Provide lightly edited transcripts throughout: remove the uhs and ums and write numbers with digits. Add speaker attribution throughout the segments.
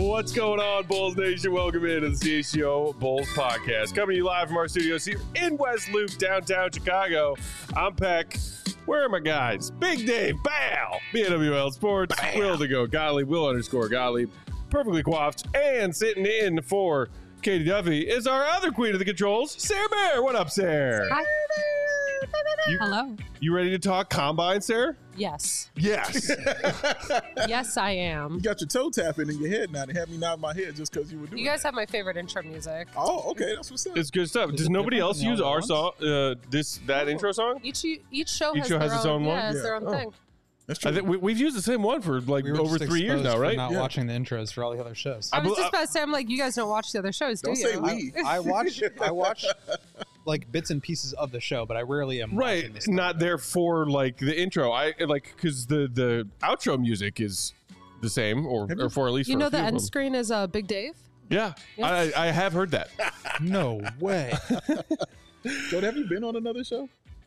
Speaker 1: What's going on, Bulls Nation? Welcome into the CHGO Bulls Podcast. Coming to you live from our studios here in West Loop, downtown Chicago. I'm Peck. Where are my guys? Big Dave, Bow, BNWL Sports, Will to go, Gottlieb, Will_Gottlieb, perfectly coiffed, and sitting in for Katie Duffy is our other queen of the controls, Sarah Bear. What up, Sarah?
Speaker 2: Hi. Hello.
Speaker 1: You ready to talk Combine, Sarah?
Speaker 2: Yes.
Speaker 1: Yes.
Speaker 2: Yes, I am.
Speaker 3: You got your toe tapping in your head now. They had me nod my head just because you were doing
Speaker 2: You guys have my favorite intro music.
Speaker 3: Oh, okay. That's what's up.
Speaker 1: It's good stuff. Does nobody else use our song, that intro song?
Speaker 2: Each show
Speaker 1: Each
Speaker 2: has
Speaker 1: show
Speaker 2: their
Speaker 1: has its own one?
Speaker 2: Yeah, it's
Speaker 3: Yeah.
Speaker 2: their own thing.
Speaker 3: That's true.
Speaker 1: I think we've used the same one for like
Speaker 4: We were
Speaker 1: over
Speaker 4: just
Speaker 1: 3 years now,
Speaker 4: exposed for
Speaker 1: right?
Speaker 4: Not
Speaker 3: Yeah.
Speaker 4: watching the intros for all the other shows.
Speaker 2: I was just about to say, I'm like, you guys don't watch the other shows,
Speaker 3: Don't
Speaker 2: do
Speaker 3: say
Speaker 2: you?
Speaker 3: we.
Speaker 4: I watch like bits and pieces of the show, but I rarely am
Speaker 1: Right,
Speaker 4: watching this
Speaker 1: not there for like the intro. I like because the outro music is the same, or for at least
Speaker 2: You
Speaker 1: for
Speaker 2: know
Speaker 1: a
Speaker 2: the
Speaker 1: few of
Speaker 2: end
Speaker 1: them.
Speaker 2: screen is Big Dave?
Speaker 1: Yeah,
Speaker 2: Yeah.
Speaker 1: I have heard that.
Speaker 4: No way.
Speaker 3: So have you been on another show?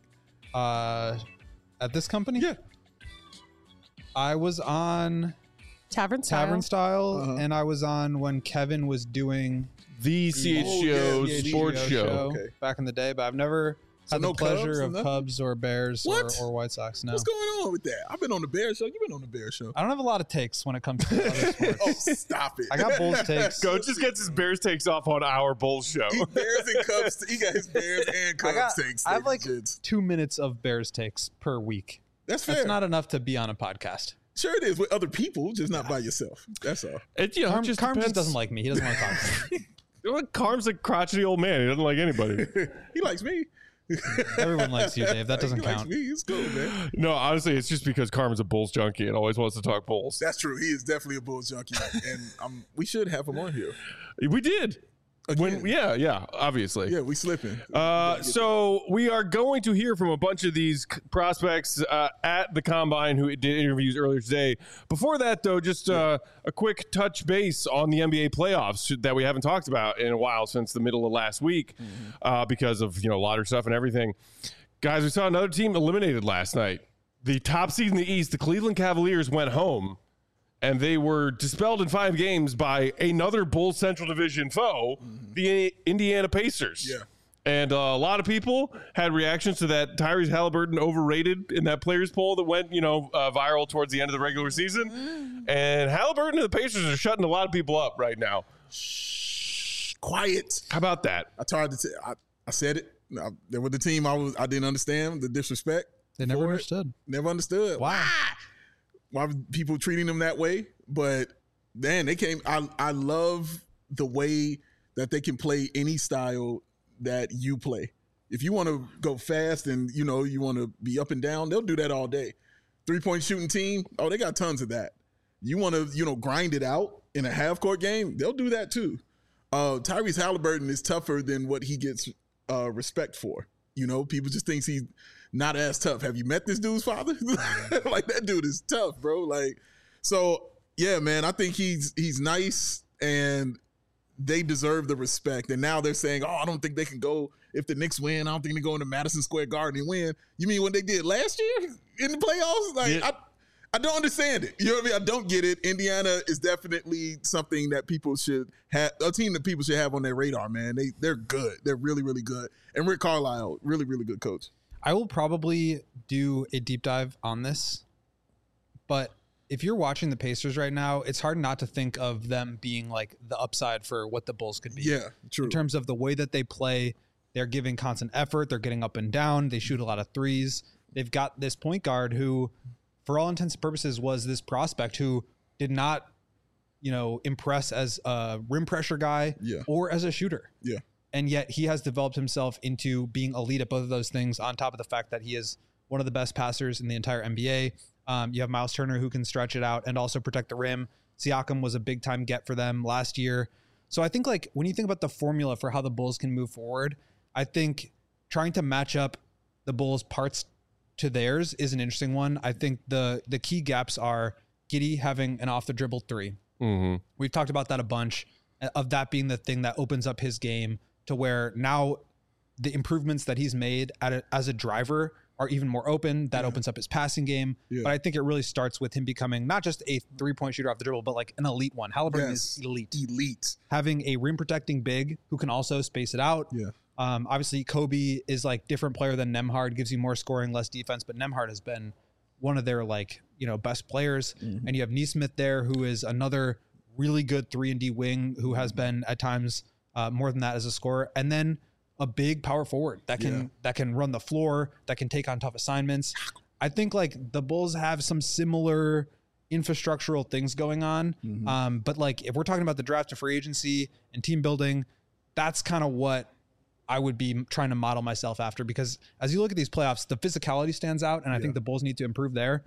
Speaker 4: At this company?
Speaker 3: Yeah.
Speaker 4: I was on
Speaker 2: Tavern Style.
Speaker 4: Tavern Style,
Speaker 3: Uh-huh.
Speaker 4: and I was on when Kevin was doing
Speaker 1: The CHGO
Speaker 3: yeah,
Speaker 1: sports
Speaker 4: CHGO
Speaker 1: show.
Speaker 3: Okay.
Speaker 4: back in the day, but I've never
Speaker 3: So
Speaker 4: had
Speaker 3: no
Speaker 4: the pleasure
Speaker 3: Cubs or
Speaker 4: of
Speaker 3: nothing?
Speaker 4: Cubs or Bears
Speaker 3: What?
Speaker 4: or White Sox. No.
Speaker 3: What's going on with that? I've been on the Bears show. You've been on the Bears show.
Speaker 4: I don't have a lot of takes when it comes to other sports.
Speaker 3: Oh, stop it.
Speaker 4: I got Bulls takes.
Speaker 1: Coach just gets his Bears takes off on our Bulls show.
Speaker 3: He Bears and Cubs. He got his Bears and Cubs takes.
Speaker 4: I have like
Speaker 3: ladies and gents.
Speaker 4: 2 minutes of Bears takes per week.
Speaker 3: That's fair.
Speaker 4: That's not enough to be on a podcast.
Speaker 3: Sure it is with other people, just not by yourself. That's all.
Speaker 1: It, you know,
Speaker 4: Carm
Speaker 1: just
Speaker 4: just
Speaker 1: depends.
Speaker 4: doesn't like me. He doesn't want to talk to me.
Speaker 1: Well, Carm's a crotchety old man. He doesn't like anybody.
Speaker 3: He likes me.
Speaker 4: Everyone likes you, Dave. That doesn't
Speaker 3: he likes
Speaker 4: count.
Speaker 3: me. It's cool, man.
Speaker 1: No, honestly, it's just because Carm's a Bulls junkie and always wants to talk Bulls.
Speaker 3: That's true. He is definitely a Bulls junkie, and we should have him on here.
Speaker 1: We did.
Speaker 3: Again.
Speaker 1: Yeah, obviously.
Speaker 3: Yeah, we slipping.
Speaker 1: So we are going to hear from a bunch of these prospects at the Combine who did interviews earlier today. Before that, though, just a quick touch base on the NBA playoffs that we haven't talked about in a while since the middle of last week because of lottery stuff and everything. Guys, we saw another team eliminated last night. The top seed in the East, the Cleveland Cavaliers, went home. And they were dispelled in 5 games by another Bulls Central Division foe, the Indiana Pacers.
Speaker 3: Yeah.
Speaker 1: And a lot of people had reactions to that Tyrese Halliburton overrated in that players poll that went, viral towards the end of the regular season. And Halliburton and the Pacers are shutting a lot of people up right now.
Speaker 3: Quiet.
Speaker 1: How about that?
Speaker 3: I tried to. I said it. There was the team I didn't understand the disrespect.
Speaker 4: They never
Speaker 3: for it.
Speaker 4: understood.
Speaker 3: Never understood.
Speaker 4: Why?
Speaker 3: Why were people treating them that way? But man, they came. I love the way that they can play any style that you play. If you want to go fast and you want to be up and down, they'll do that all day. 3-point shooting team, oh, they got tons of that. You want to grind it out in a half court game, they'll do that too. Tyrese Halliburton is tougher than what he gets respect for. People just think he's not as tough. Have you met this dude's father? Like, that dude is tough, bro. Like, so yeah, man, I think he's nice and they deserve the respect. And now they're saying, oh, I don't think they can go if the Knicks win. I don't think they go into Madison Square Garden and win. You mean what they did last year in the playoffs? Like,
Speaker 1: Yeah.
Speaker 3: I don't understand it. You know what I mean? I don't get it. Indiana is definitely something that people should have, a team that people should have on their radar, man. They're good. They're really, really good. And Rick Carlisle, really, really good coach.
Speaker 4: I will probably do a deep dive on this, but if you're watching the Pacers right now, it's hard not to think of them being like the upside for what the Bulls could be.
Speaker 3: Yeah, true.
Speaker 4: In terms of the way that they play, they're giving constant effort. They're getting up and down. They shoot a lot of threes. They've got this point guard who, for all intents and purposes, was this prospect who did not, impress as a rim pressure guy or as a shooter.
Speaker 3: Yeah.
Speaker 4: And yet he has developed himself into being elite at both of those things, on top of the fact that he is one of the best passers in the entire NBA. You have Miles Turner who can stretch it out and also protect the rim. Siakam was a big time get for them last year. So I think like when you think about the formula for how the Bulls can move forward, I think trying to match up the Bulls' parts to theirs is an interesting one. I think the key gaps are Giddey having an off the dribble 3.
Speaker 1: Mm-hmm.
Speaker 4: We've talked about that a bunch, of that being the thing that opens up his game to where now the improvements that he's made as a driver are even more open. That opens up his passing game.
Speaker 3: Yeah.
Speaker 4: But I think it really starts with him becoming not just a 3-point shooter off the dribble, but like an elite one. Halliburton is elite. Having a rim protecting big who can also space it out.
Speaker 3: Yeah.
Speaker 4: Obviously, Kobe is like different player than Nembhard, gives you more scoring, less defense. But Nembhard has been one of their best players. And you have Nesmith there, who is another really good 3-and-D wing who has been at times more than that as a scorer. And then a big power forward that can run the floor, that can take on tough assignments. I think like the Bulls have some similar infrastructural things going on. But like if we're talking about the draft to free agency and team building, that's kind of what I would be trying to model myself after, because as you look at these playoffs, the physicality stands out, and I think the Bulls need to improve there.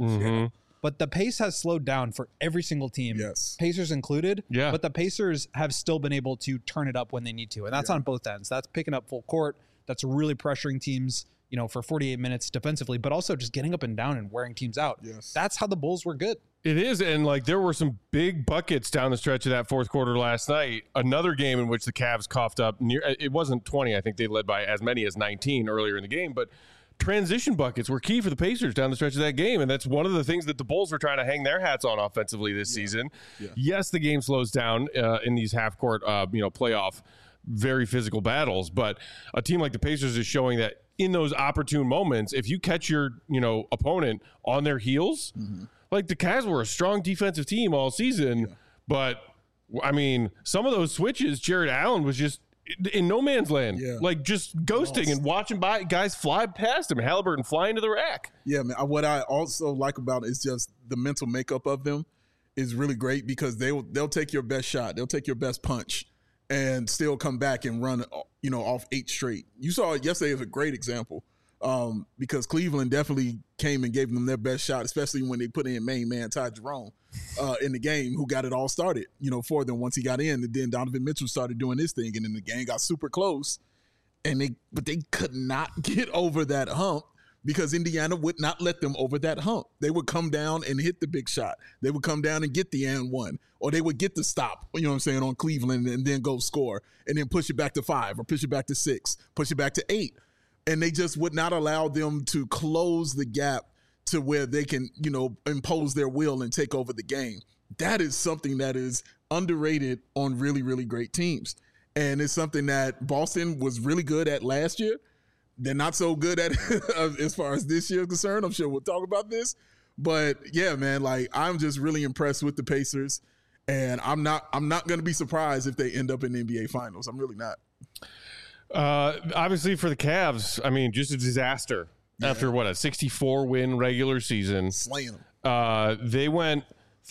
Speaker 4: But the pace has slowed down for every single team, Pacers included.
Speaker 1: Yeah.
Speaker 4: But the Pacers have still been able to turn it up when they need to. And that's on both ends. That's picking up full court. That's really pressuring teams, for 48 minutes defensively, but also just getting up and down and wearing teams out. That's how the Bulls were good.
Speaker 1: It is. And like there were some big buckets down the stretch of that fourth quarter last night. Another game in which the Cavs coughed up it wasn't 20. I think they led by as many as 19 earlier in the game, but transition buckets were key for the Pacers down the stretch of that game, and that's one of the things that the Bulls were trying to hang their hats on offensively this season. Yes, the game slows down in these half-court, playoff, very physical battles, but a team like the Pacers is showing that in those opportune moments, if you catch your opponent on their heels, like the Cavs were a strong defensive team all season, but I mean, some of those switches, Jared Allen was just in no man's land, like just ghosting and watching guys fly past him. Halliburton flying to the rack.
Speaker 3: Yeah, man. What I also like about it is just the mental makeup of them is really great, because they'll take your best shot, they'll take your best punch, and still come back and run, off 8 straight. You saw it yesterday as a great example, because Cleveland definitely came and gave them their best shot, especially when they put in main man Ty Jerome in the game, who got it all started, for them once he got in. And then Donovan Mitchell started doing his thing, and then the game got super close. But they could not get over that hump, because Indiana would not let them over that hump. They would come down and hit the big shot. They would come down and get the and one, or they would get the stop, on Cleveland, and then go score, and then push it back to 5 or push it back to 6, push it back to 8. And they just would not allow them to close the gap to where they can, impose their will and take over the game. That is something that is underrated on really, really great teams. And it's something that Boston was really good at last year. They're not so good at as far as this year is concerned. I'm sure we'll talk about this. But yeah, man, like I'm just really impressed with the Pacers. And I'm not going to be surprised if they end up in the NBA Finals. I'm really not.
Speaker 1: Obviously for the Cavs, I mean, just a disaster after a 64-win regular season.
Speaker 3: Slaying them.
Speaker 1: They went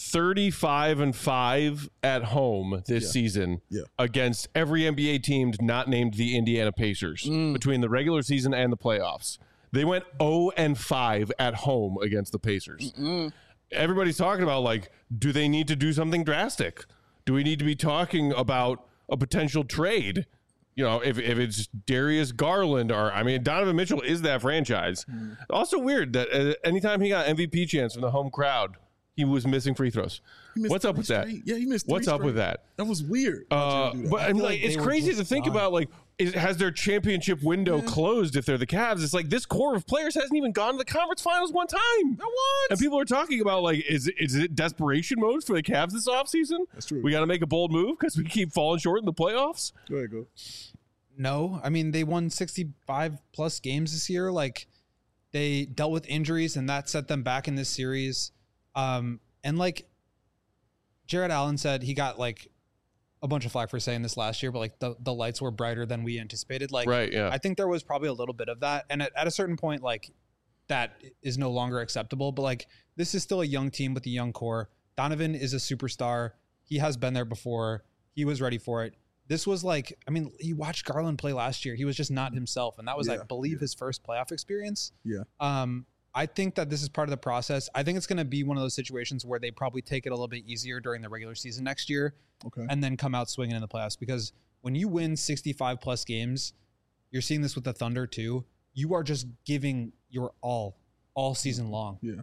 Speaker 1: 35-5 at home this season against every NBA team not named the Indiana Pacers between the regular season and the playoffs. They went 0-5 at home against the Pacers. Everybody's talking about, like, do they need to do something drastic? Do we need to be talking about a potential trade? If it's Darius Garland Donovan Mitchell is that franchise. Also weird that anytime he got MVP chance from the home crowd, he was missing free throws. What's up with that?
Speaker 3: Yeah, he missed 3
Speaker 1: What's up
Speaker 3: straight.
Speaker 1: with that?
Speaker 3: That was weird.
Speaker 1: But I'm like, it's crazy to think about, like, has their championship window closed if they're the Cavs? It's like this core of players hasn't even gone to the conference finals one time.
Speaker 3: Not once.
Speaker 1: And people are talking about, like, is it desperation mode for the Cavs this offseason?
Speaker 3: That's true.
Speaker 1: We got to make a bold move because we keep falling short in the playoffs?
Speaker 3: Go ahead, go.
Speaker 4: No, I mean, they won 65 plus games this year. Like, they dealt with injuries, and that set them back in this series. And like Jared Allen said, he got like a bunch of flack for saying this last year, but like the lights were brighter than we anticipated. Like,
Speaker 1: right, yeah.
Speaker 4: I think there was probably a little bit of that. And at a certain point, like that is no longer acceptable, but like this is still a young team with a young core. Donovan is a superstar. He has been there before. He was ready for it. This was like, I mean, you watched Garland play last year. He was just not himself. And that was, I believe, his first playoff experience.
Speaker 3: Yeah.
Speaker 4: I think that this is part of the process. I think it's going to be one of those situations where they probably take it a little bit easier during the regular season next year and then come out swinging in the playoffs. Because when you win 65 plus games, you're seeing this with the Thunder too. You are just giving your all season long.
Speaker 3: Yeah.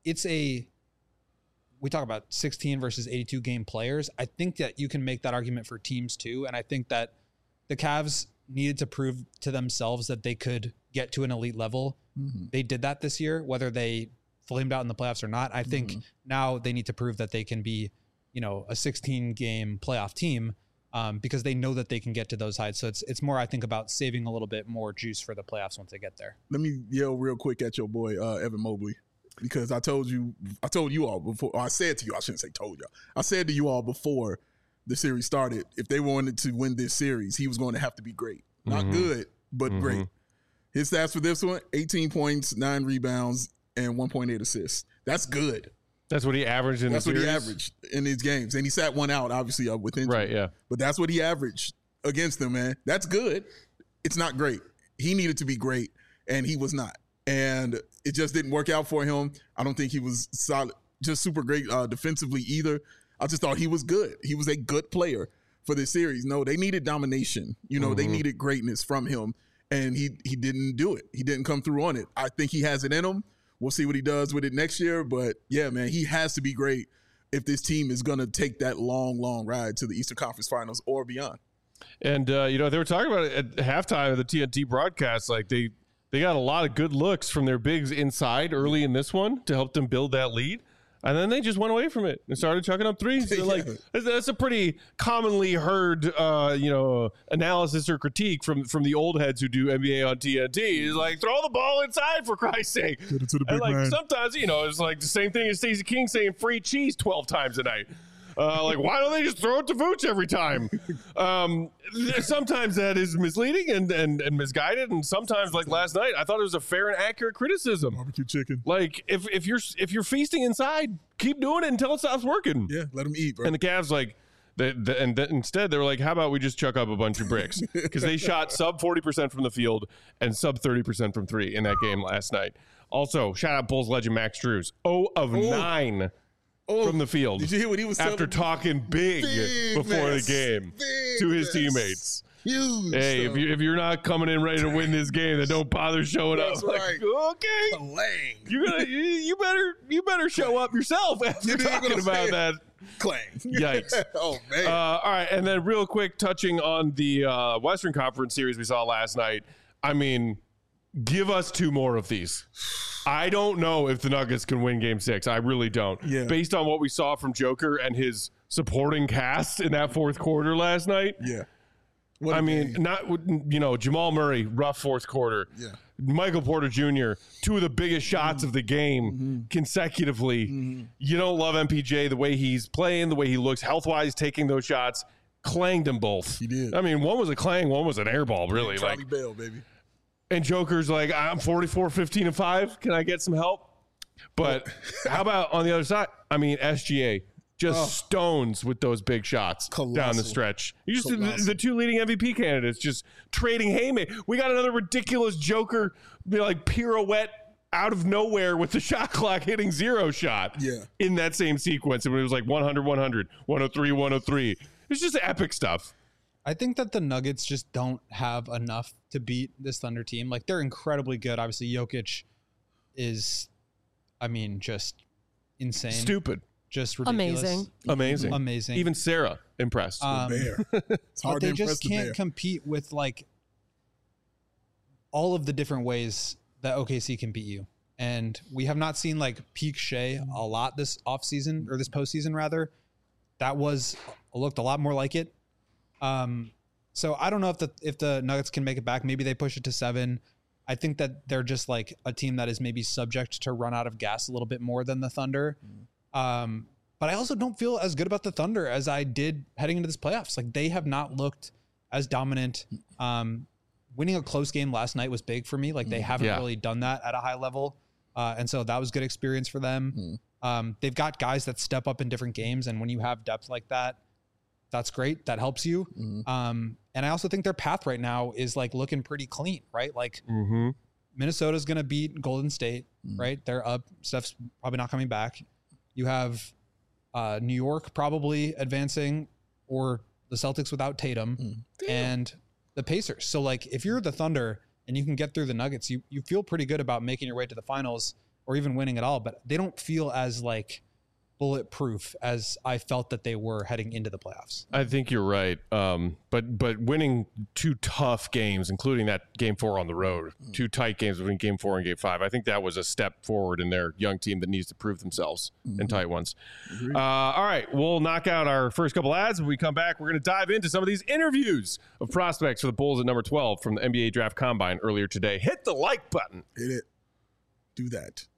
Speaker 4: We talk about 16 versus 82 game players. I think that you can make that argument for teams too. And I think that the Cavs needed to prove to themselves that they could get to an elite level. They did that this year, whether they flamed out in the playoffs or not. I think now they need to prove that they can be, you know, a 16-game playoff team because they know that they can get to those heights. So it's more, I think, about saving a little bit more juice for the playoffs once they get there.
Speaker 3: Let me yell real quick at your boy, Evan Mobley, because I told you all before, or I said to you, I shouldn't say told you. I said to you all before the series started, if they wanted to win this series, he was going to have to be great. Not good, but great. His stats for this one, 18 points, 9 rebounds, and 1.8 assists. That's good.
Speaker 1: That's what he averaged in the series?
Speaker 3: That's what he averaged in these games. And he sat one out, obviously, with injury.
Speaker 1: Right, yeah.
Speaker 3: But that's what he averaged against them, man. That's good. It's not great. He needed to be great, and he was not. And it just didn't work out for him. I don't think he was solid, just super great defensively either. I just thought he was good. He was a good player for this series. No, they needed domination. You know, they needed greatness from him, and he didn't do it. He didn't come through on it. I think he has it in him. We'll see what he does with it next year. But, yeah, man, he has to be great if this team is going to take that long, long ride to the Eastern Conference Finals or beyond.
Speaker 1: And, you know, they were talking about it at halftime of the TNT broadcast. Like, they got a lot of good looks from their bigs inside early in this one to help them build that lead. And then they just went away from it and started chucking up threes. So like that's a pretty commonly heard, you know, analysis or critique from the old heads who do NBA on TNT. Is like, throw the ball inside, for Christ's sake.
Speaker 3: Get it to the big
Speaker 1: and like
Speaker 3: man.
Speaker 1: sometimes, you know, it's like the same thing as Stacey King saying free cheese 12 times a night. Like, why don't they just throw it to Vooch every time? Sometimes that is misleading and misguided, and sometimes, like last night, I thought it was a fair and accurate criticism.
Speaker 3: Barbecue chicken.
Speaker 1: Like, if you're feasting inside, keep doing it until it stops working.
Speaker 3: Yeah, let him eat, bro.
Speaker 1: And the Cavs, like, instead they were like, how about we just chuck up a bunch of bricks? Because they shot sub 40% from the field and sub 30% from three in that game last night. Also, shout out Bulls legend Max Strus, 0 of 9. From the field.
Speaker 3: Did you hear what he was
Speaker 1: after talking big before the game to his teammates?
Speaker 3: Huge.
Speaker 1: Hey, if you're not coming in ready to win this game, then don't bother showing up.
Speaker 3: That's right.
Speaker 1: Like, okay, you better show up yourself after talking about that.
Speaker 3: Clang.
Speaker 1: Yikes.
Speaker 3: Oh man.
Speaker 1: All right, and then real quick, touching on the Western Conference series we saw last night. I mean, give us 2 more of these. I don't know if the Nuggets can win Game 6. I really don't.
Speaker 3: Yeah.
Speaker 1: Based on what we saw from Joker and his supporting cast in that fourth quarter last night.
Speaker 3: Yeah.
Speaker 1: I mean, not, you know, Jamal Murray, rough fourth quarter.
Speaker 3: Yeah.
Speaker 1: Michael Porter Jr., 2 of the biggest shots of the game consecutively. You don't love MPJ, the way he's playing, the way he looks health-wise, taking those shots. Clanged them both.
Speaker 3: He did.
Speaker 1: I mean, one was a clang, one was an air ball, really.
Speaker 3: Charlie
Speaker 1: Like,
Speaker 3: Bell, baby.
Speaker 1: and Joker's like, I'm 44, 15, and 5. Can I get some help? But how about on the other side? I mean, SGA just stones with those big shots down the stretch. You just the 2 leading MVP candidates just trading haymakers. We got another ridiculous Joker like pirouette out of nowhere with the shot clock hitting 0 shot.
Speaker 3: Yeah.
Speaker 1: In that same sequence, and it was like 100, 100, 103, 103. It's just epic stuff.
Speaker 4: I think that the Nuggets just don't have enough to beat this Thunder team. Like, they're incredibly good. Obviously, Jokic is, I mean, just insane.
Speaker 1: Stupid.
Speaker 4: Just ridiculous.
Speaker 2: Amazing.
Speaker 1: Even Sarah impressed.
Speaker 3: Bear. It's hard
Speaker 4: But they
Speaker 3: to impress
Speaker 4: just
Speaker 3: the
Speaker 4: can't
Speaker 3: bear.
Speaker 4: compete with, like, all of the different ways that OKC can beat you. And we have not seen, like, peak Shea a lot this offseason, or this postseason, rather. That looked a lot more like it. So I don't know if the Nuggets can make it back. Maybe they push it to 7. I think that they're just like a team that is maybe subject to run out of gas a little bit more than the Thunder. But I also don't feel as good about the Thunder as I did heading into this playoffs. Like, they have not looked as dominant. Winning a close game last night was big for me. Like, they haven't really done that at a high level. And so that was good experience for them. They've got guys that step up in different games. And when you have depth like that, that's great. That helps you. And I also think their path right now is like looking pretty clean, right? Like Minnesota's going to beat Golden State, right? They're up. Steph's probably not coming back. You have New York probably advancing, or the Celtics without Tatum, and the Pacers. So like, if you're the Thunder and you can get through the Nuggets, you feel pretty good about making your way to the finals or even winning it all, but they don't feel as like bulletproof as I felt that they were heading into the playoffs.
Speaker 1: I think you're right. But winning 2 tough games, including that game 4 on the road, 2 tight games between game 4 and game 5, I think that was a step forward in their young team that needs to prove themselves in tight ones. All right, we'll knock out our first couple ads. When we come back, we're going to dive into some of these interviews of prospects for the Bulls at number 12 from the NBA Draft Combine earlier today. Hit the like button.
Speaker 3: Hit it. Do that.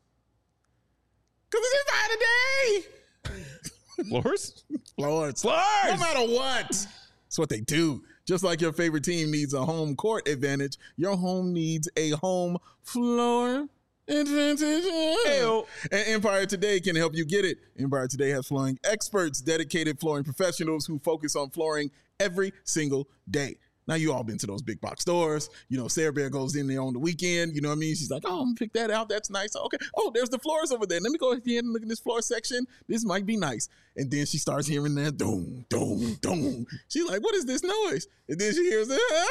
Speaker 3: Because it's Empire today.
Speaker 1: Floors?
Speaker 3: Floors.
Speaker 1: Floors!
Speaker 3: No matter what. It's what they do. Just like your favorite team needs a home court advantage, your home needs a home floor advantage.
Speaker 1: Hey-o.
Speaker 3: And Empire Today can help you get it. Empire Today has flooring experts, dedicated flooring professionals who focus on flooring every single day. Now, you all been to those big box stores. You know, Sarah Bear goes in there on the weekend. You know what I mean? She's like, oh, I'm going to pick that out. That's nice. Okay. Oh, there's the floors over there. Let me go ahead and look at this floor section. This might be nice. And then she starts hearing that doom, doom, doom. She's like, what is this noise? And then she hears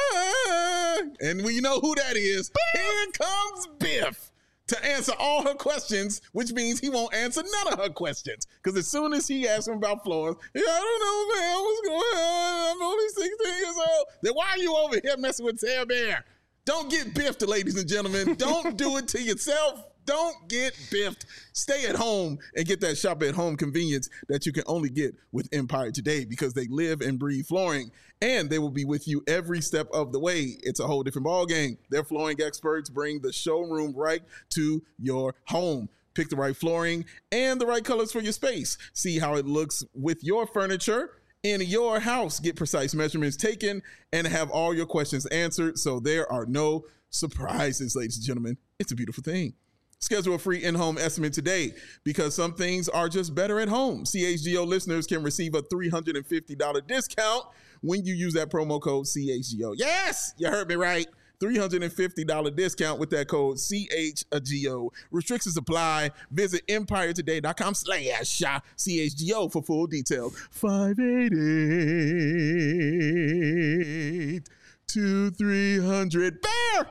Speaker 3: and when you know who that is, here comes Biff to answer all her questions, which means he won't answer none of her questions. Because as soon as he asks him about floors, I don't know, man, what's going on? I'm only 16 years old. Then why are you over here messing with Sarah Bear? Don't get biffed, ladies and gentlemen. Don't do it to yourself. Don't get biffed. Stay at home and get that shop at home convenience that you can only get with Empire Today, because they live and breathe flooring, and they will be with you every step of the way. It's a whole different ball game. Their flooring experts bring the showroom right to your home. Pick the right flooring and the right colors for your space. See how it looks with your furniture in your house. Get precise measurements taken and have all your questions answered, so there are no surprises, ladies and gentlemen. It's a beautiful thing. Schedule a free in-home estimate today, because some things are just better at home. CHGO listeners can receive a $350 discount when you use that promo code CHGO. Yes, you heard me right. $350 discount with that code CHGO. Restrictions apply. Visit EmpireToday.com/CHGO for full details. 588-2300. Bear!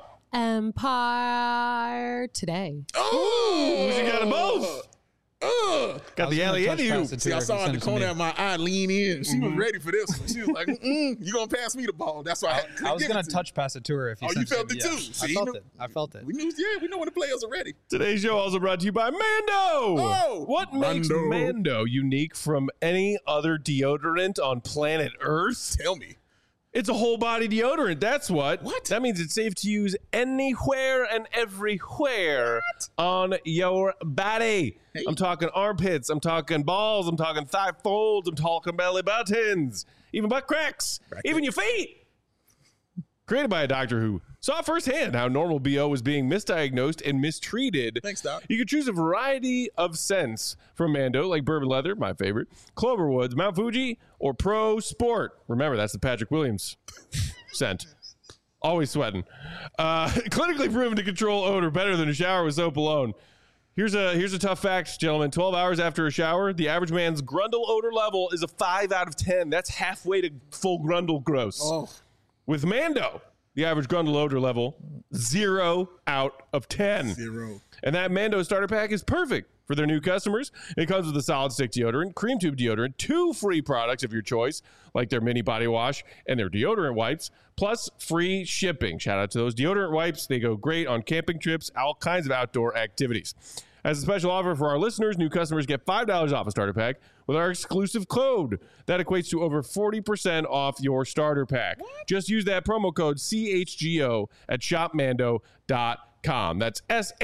Speaker 2: Empire Today.
Speaker 3: Oh!
Speaker 1: You got them both. Got the alley in you.
Speaker 3: See, I saw in the corner of my eye lean in. She was ready for this one. She was like, you going to pass me the ball. That's why
Speaker 4: I was going to touch pass it to her if you
Speaker 3: you felt it too.
Speaker 4: I felt it. I felt it.
Speaker 3: We knew when the players are ready.
Speaker 1: Today's show also brought to you by Mando.
Speaker 3: Oh,
Speaker 1: what makes Mando unique from any other deodorant on planet Earth?
Speaker 3: Tell me.
Speaker 1: It's a whole body deodorant. That's what.
Speaker 3: What?
Speaker 1: That means it's safe to use anywhere and everywhere on your body.
Speaker 3: Hey.
Speaker 1: I'm talking armpits. I'm talking balls. I'm talking thigh folds. I'm talking belly buttons. Even butt cracks. Even your feet. Created by a doctor who saw firsthand how normal BO was being misdiagnosed and mistreated.
Speaker 3: Thanks, Doc.
Speaker 1: You can choose a variety of scents from Mando, like Bourbon Leather, my favorite, Cloverwoods, Mount Fuji, or Pro Sport. Remember, that's the Patrick Williams scent. Always sweating. Clinically proven to control odor better than a shower with soap alone. Here's a tough fact, gentlemen. 12 hours after a shower, the average man's Grundle odor level is a 5 out of 10. That's halfway to full Grundle gross.
Speaker 3: Oh.
Speaker 1: With Mando, the average Grundle odor level, 0 out of 10.
Speaker 3: 0.
Speaker 1: And that Mando starter pack is perfect for their new customers. It comes with a solid stick deodorant, cream tube deodorant, 2 free products of your choice, like their mini body wash and their deodorant wipes, plus free shipping. Shout out to those deodorant wipes. They go great on camping trips, all kinds of outdoor activities. As a special offer for our listeners, new customers get $5 off a starter pack with our exclusive code. That equates to over 40% off your starter pack. What? Just use that promo code CHGO at shopmando.com. That's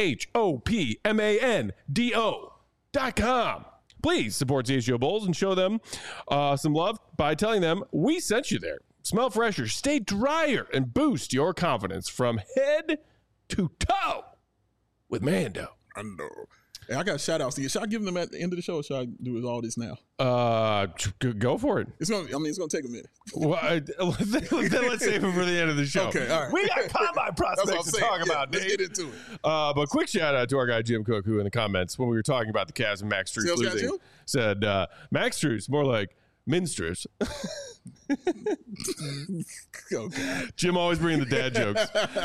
Speaker 1: SHOPMANDO.com. Please support CHGO Bulls and show them some love by telling them we sent you there. Smell fresher, stay drier, and boost your confidence from head to toe with Mando.
Speaker 3: Hey, I got shout outs to you. Should I give them at the end of the show, or should I do all this now?
Speaker 1: Go for it.
Speaker 3: It's gonna take a minute.
Speaker 1: Well, then let's save it for the end of the show.
Speaker 3: Okay, all right.
Speaker 1: We got combine prospects to talk about,
Speaker 3: Let's
Speaker 1: Dave.
Speaker 3: get into it.
Speaker 1: But quick shout out to our guy Jim Cook, who in the comments when we were talking about the Cavs and Max Strus
Speaker 3: Sales guy
Speaker 1: losing
Speaker 3: Jim?
Speaker 1: said Max Strus more like minstrels.
Speaker 3: Oh, God.
Speaker 1: Jim always bringing the dad jokes.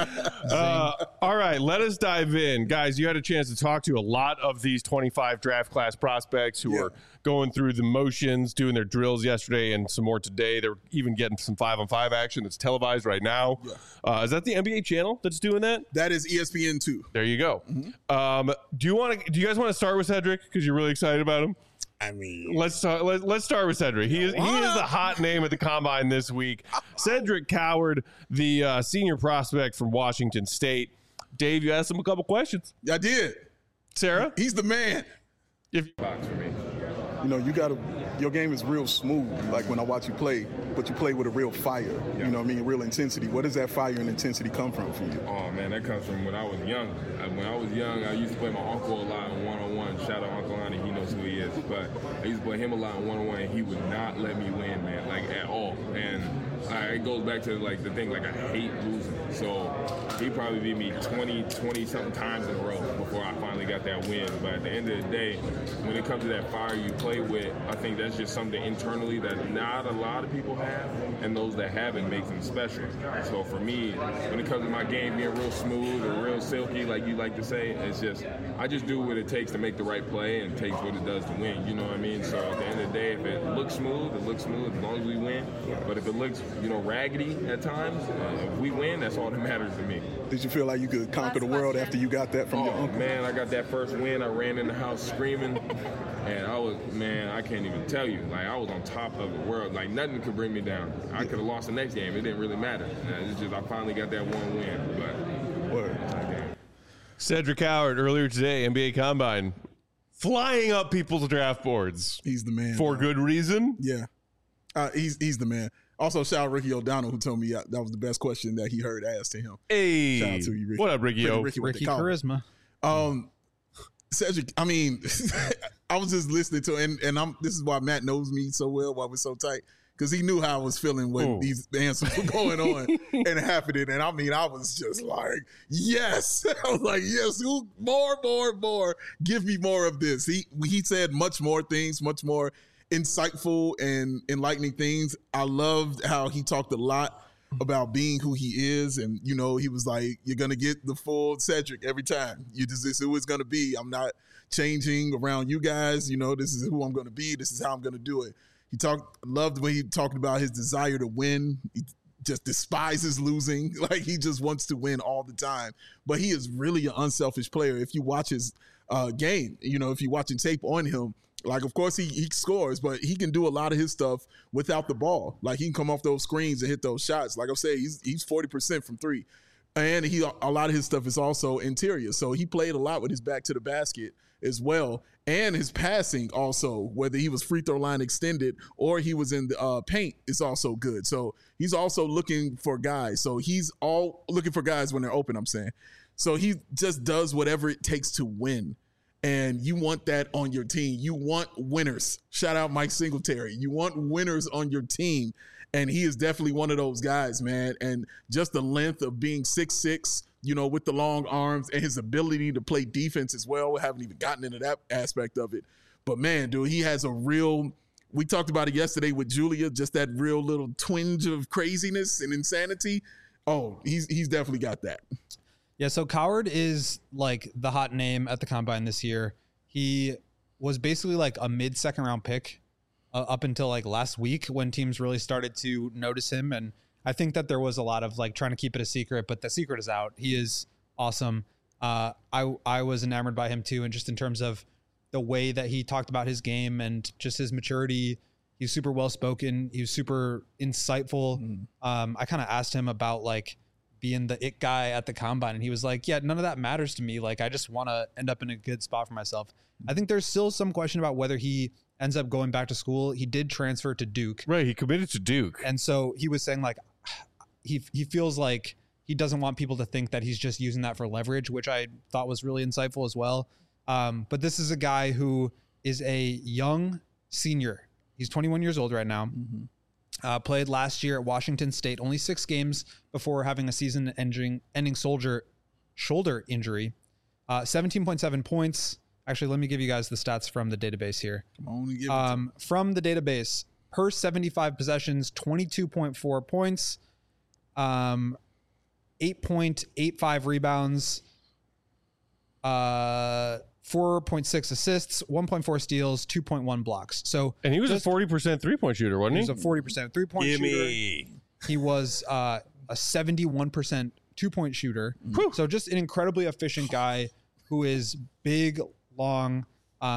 Speaker 1: All right, let us dive in. Guys, you had a chance to talk to a lot of these 25 draft class prospects who are going through the motions, doing their drills yesterday and some more today. They're even getting some 5-on-5 action that's televised right now. Yeah. Is that the NBA channel that's doing that?
Speaker 3: That is ESPN2.
Speaker 1: There you go. Mm-hmm. Do you guys want to start with Cedric because you're really excited about him?
Speaker 3: I mean,
Speaker 1: let's start with Cedric. He is the hot name at the combine this week. Cedric Coward, the senior prospect from Washington State. Dave, you asked him a couple questions.
Speaker 3: I did.
Speaker 1: Sarah,
Speaker 3: he's the man.
Speaker 5: Box for me.
Speaker 6: You know, your game is real smooth, like when I watch you play, but you play with a real fire, you know what I mean, real intensity. Where does that fire and intensity come from for you?
Speaker 5: Oh, man, that comes from when I was young. When I was young, I used to play my uncle a lot in one-on-one. Shout out Uncle Lonnie, he knows who he is. But I used to play him a lot in one-on-one, and he would not let me win, man, like at all. And it goes back to like the thing, like I hate losing. So he probably beat me 20-something times in a row before I finally got that win. But at the end of the day, when it comes to that fire you play with, I think that's just something internally that not a lot of people have, and those that have it makes them special. So for me, when it comes to my game being real smooth or real silky, like you like to say, it's just, I just do what it takes to make the right play and takes what it does to win, you know what I mean? So at the end of the day, if it looks smooth, it looks smooth as long as we win. But if it looks, raggedy at times, if we win, that's all that matters to me.
Speaker 6: Did you feel like you could conquer the world after you got that from your uncle?
Speaker 5: Man, I got that first win. I ran in the house screaming, and I can't even tell you. Like, I was on top of the world. Like, nothing could bring me down. I could have lost the next game. It didn't really matter. It's just I finally got that one win. But
Speaker 6: word.
Speaker 1: Cedric Coward earlier today, NBA Combine, flying up people's draft boards.
Speaker 3: He's the man.
Speaker 1: For good reason.
Speaker 3: Yeah. He's the man. Also, shout out Ricky O'Donnell, who told me that was the best question that he heard asked to him.
Speaker 1: Hey.
Speaker 3: Shout out to you, Ricky.
Speaker 1: What up, Ricky O?
Speaker 3: Ricky
Speaker 4: Charisma.
Speaker 3: Cedric, I mean, I was just listening to it, and this is why Matt knows me so well, why we're so tight, because he knew how I was feeling when these answers were going on and happening. And I mean, I was just like, yes. I was like, yes, more. Give me more of this. He said much more things, much more insightful and enlightening things. I loved how he talked a lot about being who he is, and he was like, you're gonna get the full Cedric every time. This is who it's gonna be. I'm not changing around you guys. This is who I'm gonna be. This is how I'm gonna do it. Loved when he talked about his desire to win. He just despises losing. Like, he just wants to win all the time. But he is really an unselfish player. If you watch his game, if you're watching tape on him, like, of course, he scores, but he can do a lot of his stuff without the ball. Like, he can come off those screens and hit those shots. Like I say, he's 40% from three. And a lot of his stuff is also interior. So he played a lot with his back to the basket as well. And his passing also, whether he was free throw line extended or he was in the paint, is also good. So he's also looking for guys. So he's all looking for guys when they're open, I'm saying. So he just does whatever it takes to win. And you want that on your team. You want winners. Shout out Mike Singletary. You want winners on your team. And he is definitely one of those guys, man. And just the length of being 6'6", with the long arms, and his ability to play defense as well. We haven't even gotten into that aspect of it. But, man, dude, he has we talked about it yesterday with Julia, just that real little twinge of craziness and insanity. Oh, he's definitely got that.
Speaker 4: Yeah, so Coward is like the hot name at the combine this year. He was basically like a mid-second round pick up until like last week when teams really started to notice him. And I think that there was a lot of like trying to keep it a secret, but the secret is out. He is awesome. I was enamored by him too. And just in terms of the way that he talked about his game and just his maturity, he's super well-spoken. He was super insightful. I kind of asked him about like being the it guy at the combine, and he was like, yeah, none of that matters to me. Like, I just want to end up in a good spot for myself. I think there's still some question about whether he ends up going back to school. He did transfer to Duke.
Speaker 1: Right. He committed to Duke.
Speaker 4: And so he was saying like, he feels like he doesn't want people to think that he's just using that for leverage, which I thought was really insightful as well. But this is a guy who is a young senior. He's 21 years old right now. Played last year at Washington State, only 6 games before having a season-ending shoulder injury. 17.7 points. Actually, let me give you guys the stats from the database here.
Speaker 3: Come on, give it
Speaker 4: from the database, per 75 possessions, 22.4 points, 8.85 rebounds, 4.6 assists, 1.4 steals, 2.1 blocks. So,
Speaker 1: And he was a 40% 3-point shooter, wasn't
Speaker 4: he
Speaker 1: he?
Speaker 4: was a 40% 3-point shooter. He was a 71% 2-point shooter. So just an incredibly efficient guy who is big, long.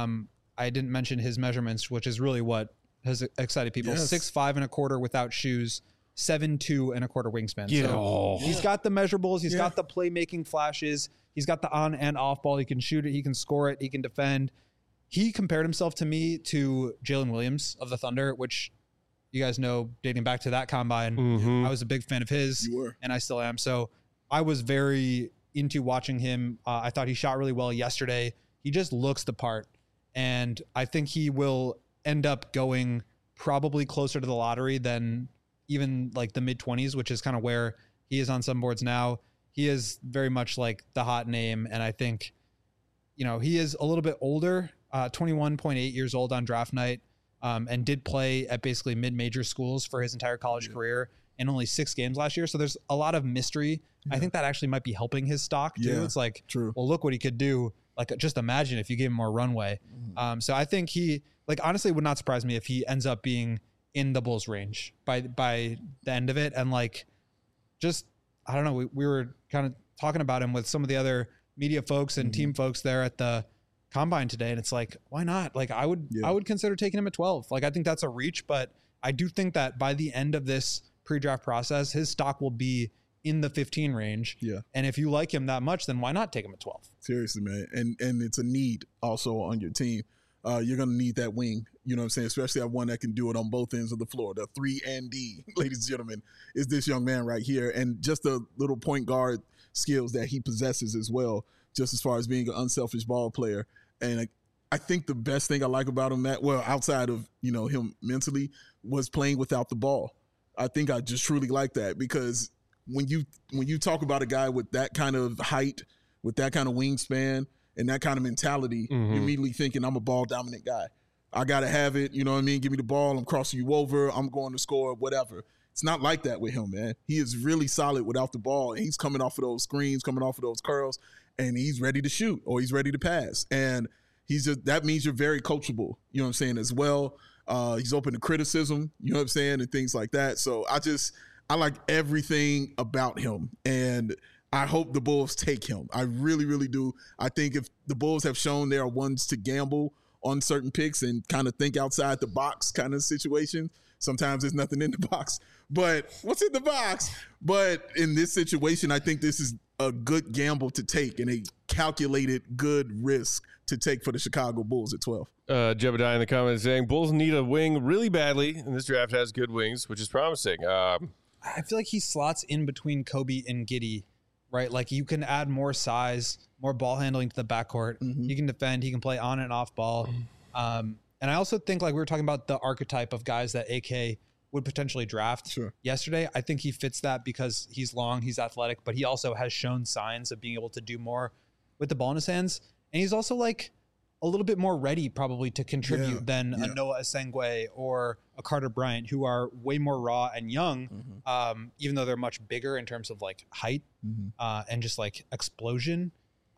Speaker 4: I didn't mention his measurements, which is really what has excited people.
Speaker 3: Yes.
Speaker 4: 6'5" and a quarter without shoes, 7'2" and a quarter wingspan.
Speaker 1: Yeah.
Speaker 4: So he's got the measurables. He's got the playmaking flashes. He's got the on and off ball. He can shoot it. He can score it. He can defend. He compared himself to me to Jalen Williams of the Thunder, which you guys know, dating back to that combine, I was a big fan of his.
Speaker 3: You were.
Speaker 4: And I still am. So I was very into watching him. I thought he shot really well yesterday. He just looks the part. And I think he will end up going probably closer to the lottery than even like the mid-20s, which is kind of where he is on some boards now. He is very much like the hot name. And I think, you know, he is a little bit older, 21.8 years old on draft night, and did play at basically mid-major schools for his entire college career in only 6 games last year. So there's a lot of mystery. I think that actually might be helping his stock too.
Speaker 3: Yeah,
Speaker 4: it's like,
Speaker 3: true.
Speaker 4: well, look what he could do. Like, just imagine if you gave him more runway. So I think he, like, honestly would not surprise me if he ends up being in the Bulls range by the end of it. And like, just, I don't know, we were kind of talking about him with some of the other media folks and team folks there at the combine today. And it's like, why not? Like, I would consider taking him at 12. Like, I think that's a reach, but I do think that by the end of this pre-draft process, his stock will be in the 15 range.
Speaker 3: Yeah.
Speaker 4: And if you like him that much, then why not take him at 12?
Speaker 3: Seriously, man. And it's a need also on your team. You're going to need that wing, you know what I'm saying? Especially that one that can do it on both ends of the floor. The 3 and D, ladies and gentlemen, is this young man right here. And just the little point guard skills that he possesses as well, just as far as being an unselfish ball player. And I think the best thing I like about him, outside of, you know, him mentally, was playing without the ball. I think I just truly like that, because when you talk about a guy with that kind of height, with that kind of wingspan, and that kind of mentality, you're immediately thinking, I'm a ball dominant guy. I got to have it. You know what I mean? Give me the ball. I'm crossing you over. I'm going to score, whatever. It's not like that with him, man. He is really solid without the ball. And he's coming off of those screens, coming off of those curls, and he's ready to shoot or he's ready to pass. And that means you're very coachable, you know what I'm saying, as well. He's open to criticism, you know what I'm saying, and things like that. So I like everything about him. And I hope the Bulls take him. I really, really do. I think if the Bulls have shown they are ones to gamble on certain picks and kind of think outside the box kind of situation, sometimes there's nothing in the box. But what's in the box? But in this situation, I think this is a good gamble to take and a calculated good risk to take for the Chicago Bulls at 12.
Speaker 1: Jebediah in the comments saying Bulls need a wing really badly, and this draft has good wings, which is promising.
Speaker 4: I feel like he slots in between Kobe and Giddey, right? Like, you can add more size, more ball handling to the backcourt. He can defend. He can play on and off ball. And I also think, like we were talking about, the archetype of guys that AK would potentially draft yesterday. I think he fits that because he's long, he's athletic, but he also has shown signs of being able to do more with the ball in his hands. And he's also like a little bit more ready probably to contribute than a Noah Asengwe or a Carter Bryant, who are way more raw and young, even though they're much bigger in terms of like height and just like explosion.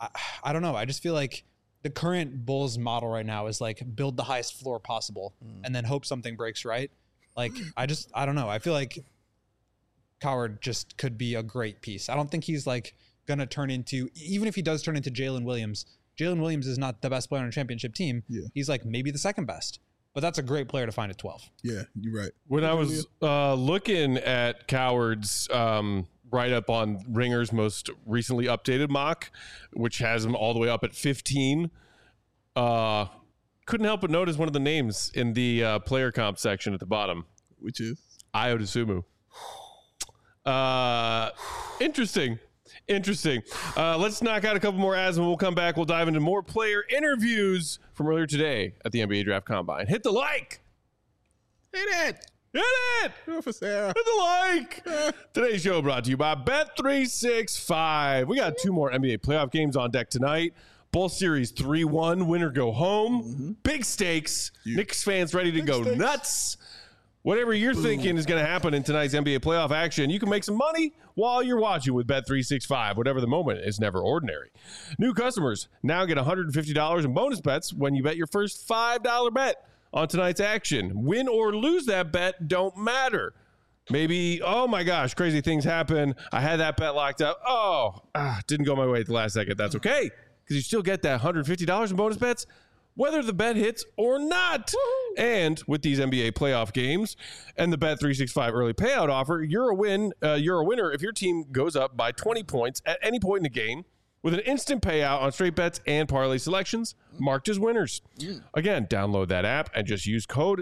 Speaker 4: I don't know. I just feel like the current Bulls model right now is like build the highest floor possible and then hope something breaks right. Like, I don't know. I feel like Coward just could be a great piece. I don't think he's like going to turn into, even if he does turn into Jalen Williams is not the best player on a championship team.
Speaker 3: Yeah.
Speaker 4: He's like maybe the second best, but that's a great player to find at 12.
Speaker 3: Yeah, you're right.
Speaker 1: When I was looking at Coward's write-up on Ringer's most recently updated mock, which has him all the way up at 15, couldn't help but notice one of the names in the player comp section at the bottom.
Speaker 3: Which is?
Speaker 1: Ayo Dosunmu. Interesting. Let's knock out a couple more ads and we'll come back. We'll dive into more player interviews from earlier today at the NBA Draft Combine. Hit the like.
Speaker 3: Hit it.
Speaker 1: Hit the like. Today's show brought to you by Bet365. We got 2 more NBA playoff games on deck tonight. Bull Series 3-1, winner go home. Big stakes. Knicks fans ready to go nuts. Whatever you're thinking is going to happen in tonight's NBA playoff action, you can make some money while you're watching with Bet365. Whatever the moment is never ordinary. New customers now get $150 in bonus bets when you bet your first $5 bet on tonight's action. Win or lose that bet don't matter. Maybe, oh my gosh, crazy things happen. I had that bet locked up. Didn't go my way at the last second. That's okay, because you still get that $150 in bonus bets whether the bet hits or not. Woo-hoo. And with these NBA playoff games and the Bet365 early payout offer, you're a winner if your team goes up by 20 points at any point in the game with an instant payout on straight bets and parlay selections marked as winners. Again, download that app and just use code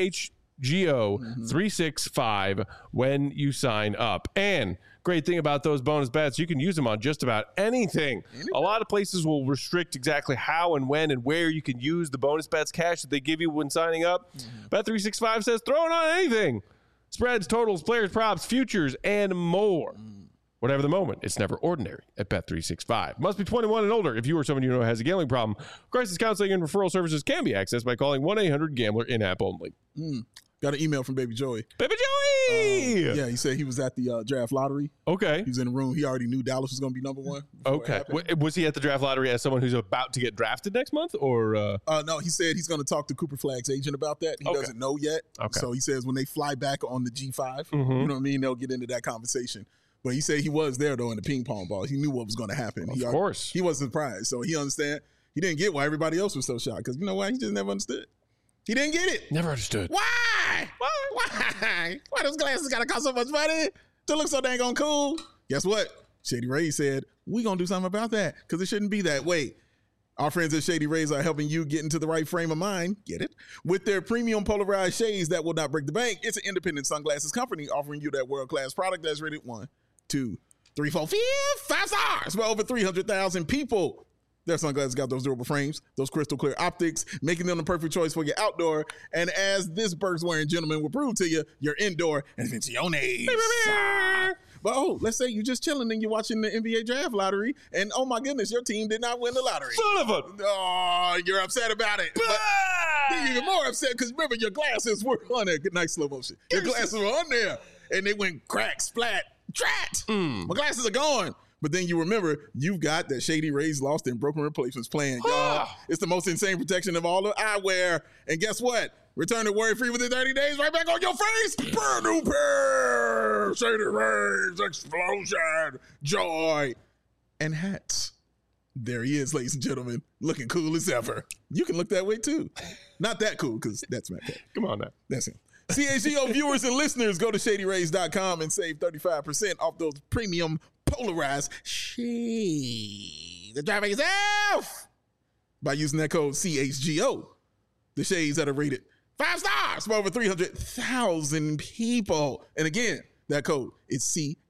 Speaker 1: CHGO365 when you sign up. And great thing about those bonus bets, you can use them on just about anything. A lot of places will restrict exactly how and when and where you can use the bonus bets cash that they give you when signing up. Bet365 says throw it on anything. Spreads, totals, players, props, futures, and more. Whatever the moment, it's never ordinary at Bet365. Must be 21 and older. If you or someone you know has a gambling problem, crisis counseling and referral services can be accessed by calling 1-800-GAMBLER in-app only.
Speaker 3: Got an email from Baby Joey.
Speaker 1: Baby Joey!
Speaker 3: Yeah, he said he was at the draft lottery.
Speaker 1: Okay.
Speaker 3: He was in the room. He already knew Dallas was going to be number one.
Speaker 1: Okay. Was he at the draft lottery as someone who's about to get drafted next month? Or
Speaker 3: no, he said he's going to talk to Cooper Flagg's agent about that. He doesn't know yet.
Speaker 1: Okay.
Speaker 3: So he says when they fly back on the G5, you know what I mean, they'll get into that conversation. But he said he was there, though, in the ping pong ball. He knew what was going to happen.
Speaker 1: Of course.
Speaker 3: He wasn't surprised. So he understand. He didn't get why everybody else was so shocked. Because you know why? He just never understood. He didn't get it.
Speaker 1: Never understood.
Speaker 3: Why? Why those glasses got to cost so much money to look so dang on cool? Guess what? Shady Rays said, we going to do something about that because it shouldn't be that way. Our friends at Shady Rays are helping you get into the right frame of mind, get it? With their premium polarized shades that will not break the bank. It's an independent sunglasses company offering you that world-class product that's rated 1, 2, 3, 4, 5 stars for over 300,000 people. Their sunglasses got those durable frames, those crystal clear optics, making them the perfect choice for your outdoor. And as this Burks-wearing gentleman will prove to you, your indoor invenciones. But let's say you're just chilling and you're watching the NBA draft lottery, and oh my goodness, your team did not win the lottery.
Speaker 1: Son of a...
Speaker 3: Oh, you're upset about it. But you're even more upset because remember, your glasses were on there. Good, nice slow motion. Your glasses were on there, and they went crack, splat, drat. My glasses are gone. But then you remember, you've got that Shady Rays lost and broken replacements plan, y'all. It's the most insane protection of all the eyewear. And guess what? Return it worry-free within 30 days, right back on your face. Brand new pair. Shady Rays, explosion, joy, and hats. There he is, ladies and gentlemen, looking cool as ever. You can look that way, too. Not that cool, because that's Matt Cat.
Speaker 1: Come on now.
Speaker 3: That's him. CHGO viewers and listeners, go to ShadyRays.com and save 35% off those premium polarized shades. The driver yourself by using that code CHGO. The shades that are rated 5 stars for over 300,000 people. And again, that code is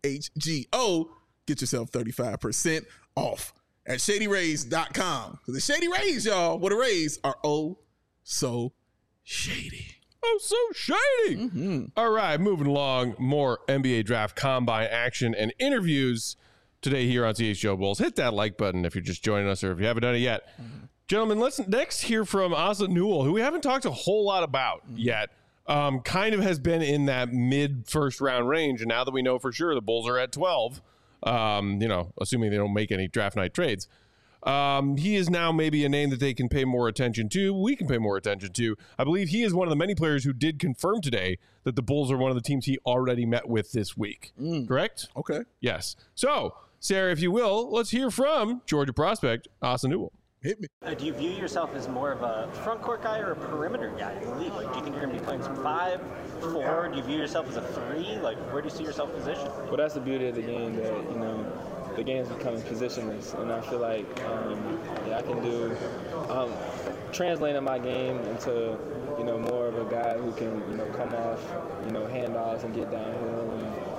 Speaker 3: CHGO. Get yourself 35% off at ShadyRays.com. The Shady Rays, y'all, what the Rays are oh so shady.
Speaker 1: Oh, so shady. All right, moving along. More NBA draft combine action and interviews today here on CHGO Bulls. Hit that like button if you're just joining us or if you haven't done it yet. Gentlemen, let's next hear from Asa Newell, who we haven't talked a whole lot about yet. Kind of has been in that mid-first round range, and now that we know for sure the Bulls are at 12, assuming they don't make any draft night trades, he is now maybe a name that they can pay more attention to. We can pay more attention to. I believe he is one of the many players who did confirm today that the Bulls are one of the teams he already met with this week. Correct?
Speaker 3: Okay.
Speaker 1: Yes. So, Sarah, if you will, let's hear from Georgia prospect Asa Newell.
Speaker 3: Hit me.
Speaker 7: Do you view yourself as more of a front court guy or a perimeter guy in the league? Like, do you think you're going to be playing some 5, 4? Do you view yourself as a 3? Like, where do you see yourself positioned?
Speaker 8: Well, that's the beauty of the game that, the game's becoming positionless, and I feel like I can do translating my game into more of a guy who can come off handoffs and get downhill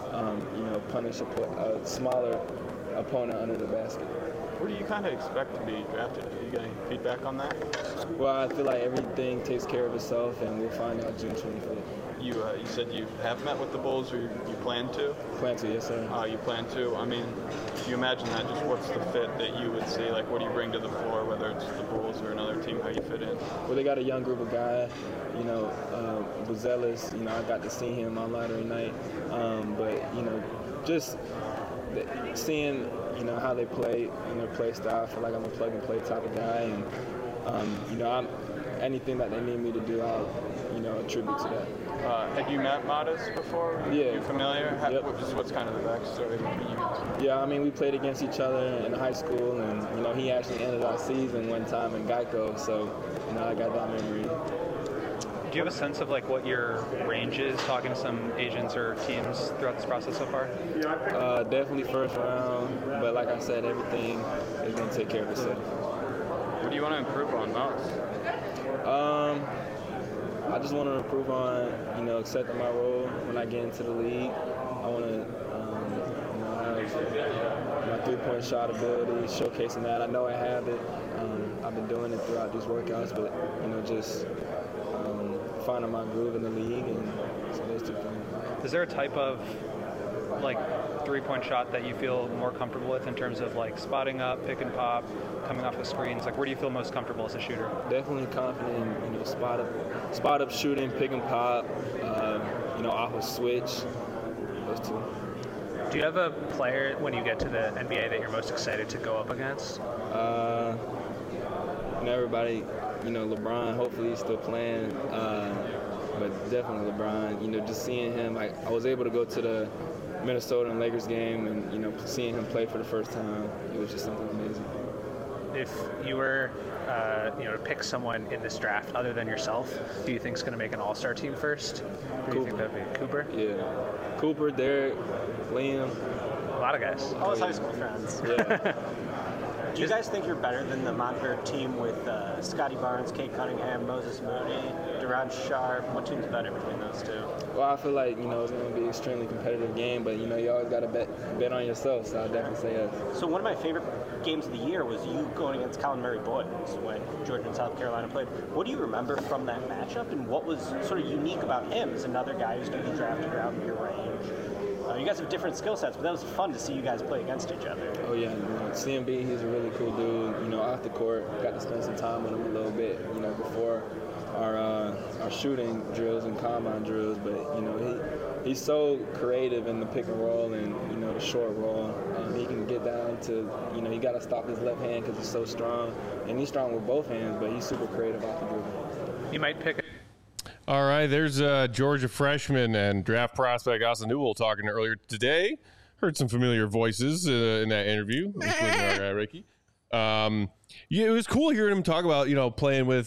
Speaker 8: and punish a smaller opponent under the basket.
Speaker 9: Where do you kind of expect to be drafted? Do you get any feedback on that?
Speaker 8: Well, I feel like everything takes care of itself, and we'll find out June 25th.
Speaker 9: You said you have met with the Bulls, or you plan to?
Speaker 8: Plan to, yes, sir.
Speaker 9: You plan to. I mean, do you imagine that? Just what's the fit that you would see? Like, what do you bring to the floor, whether it's the Bulls or another team? How you fit in?
Speaker 8: Well, they got a young group of guys. You know, Buzelis. You know, I got to see him on lottery night. But you know, just seeing how they play and their play style. I feel like I'm a plug and play type of guy, and you know, anything that they need me to do, I'll attribute to that.
Speaker 9: Had you met Modest before?
Speaker 8: Yeah.
Speaker 9: You familiar?
Speaker 8: Yep.
Speaker 9: What's kind of the backstory between you guys?
Speaker 8: Yeah, I mean, we played against each other in high school, and he actually ended our season one time in Geico, so I got that memory.
Speaker 10: Do you have a sense of like what your range is, talking to some agents or teams throughout this process so far?
Speaker 8: Definitely first round, but like I said, everything is going to take care of itself.
Speaker 9: What do you want to improve on most?
Speaker 8: I just want to improve on, accepting my role when I get into the league. I want to, have my three-point shot ability, showcasing that. I know I have it. I've been doing it throughout these workouts, but, just finding my groove in the league, and so those two things.
Speaker 10: Is there a type of like three-point shot that you feel more comfortable with in terms of like spotting up, pick and pop, coming off the screens? Like, where do you feel most comfortable as a shooter?
Speaker 8: Definitely confident in spot up shooting, pick and pop, off a switch. Those two.
Speaker 10: Do you have a player when you get to the NBA that you're most excited to go up against?
Speaker 8: Everybody, LeBron. Hopefully he's still playing. But definitely LeBron. Just seeing him. I was able to go to the Minnesota and Lakers game, and seeing him play for the first time, it was just something amazing.
Speaker 10: If you were to pick someone in this draft other than yourself, do you think is going to make an all-star team first? Do you think that'd be Cooper?
Speaker 8: Yeah, Cooper, Derek, Liam.
Speaker 10: A lot of guys.
Speaker 7: All his high school friends.
Speaker 8: Yeah.
Speaker 7: Do you guys think you're better than the Montverde team with Scotty Barnes, Kate Cunningham, Moses Moody, Duran Sharp? What team's better between those two?
Speaker 8: Well, I feel like, it's going to be an extremely competitive game, but, you always got to bet on yourself, so I'll definitely say yes.
Speaker 7: So one of my favorite games of the year was you going against Colin Murray Boyd when Georgia and South Carolina played. What do you remember from that matchup, and what was sort of unique about him as another guy who's going to be drafted around your range? You guys have different skill sets, but that was fun to see you guys play against each other.
Speaker 8: Oh, yeah. CMB, he's a really cool dude. Off the court, got to spend some time with him a little bit, before our shooting drills and combine drills. But, he's so creative in the pick and roll and, the short roll. He can get down to, he got to stop his left hand because he's so strong. And he's strong with both hands, but he's super creative off the dribble.
Speaker 10: You might pick
Speaker 1: All right, there's Georgia freshman and draft prospect Asa Newell talking earlier today. Heard some familiar voices in that interview, including our guy Ricky. Yeah, it was cool hearing him talk about playing with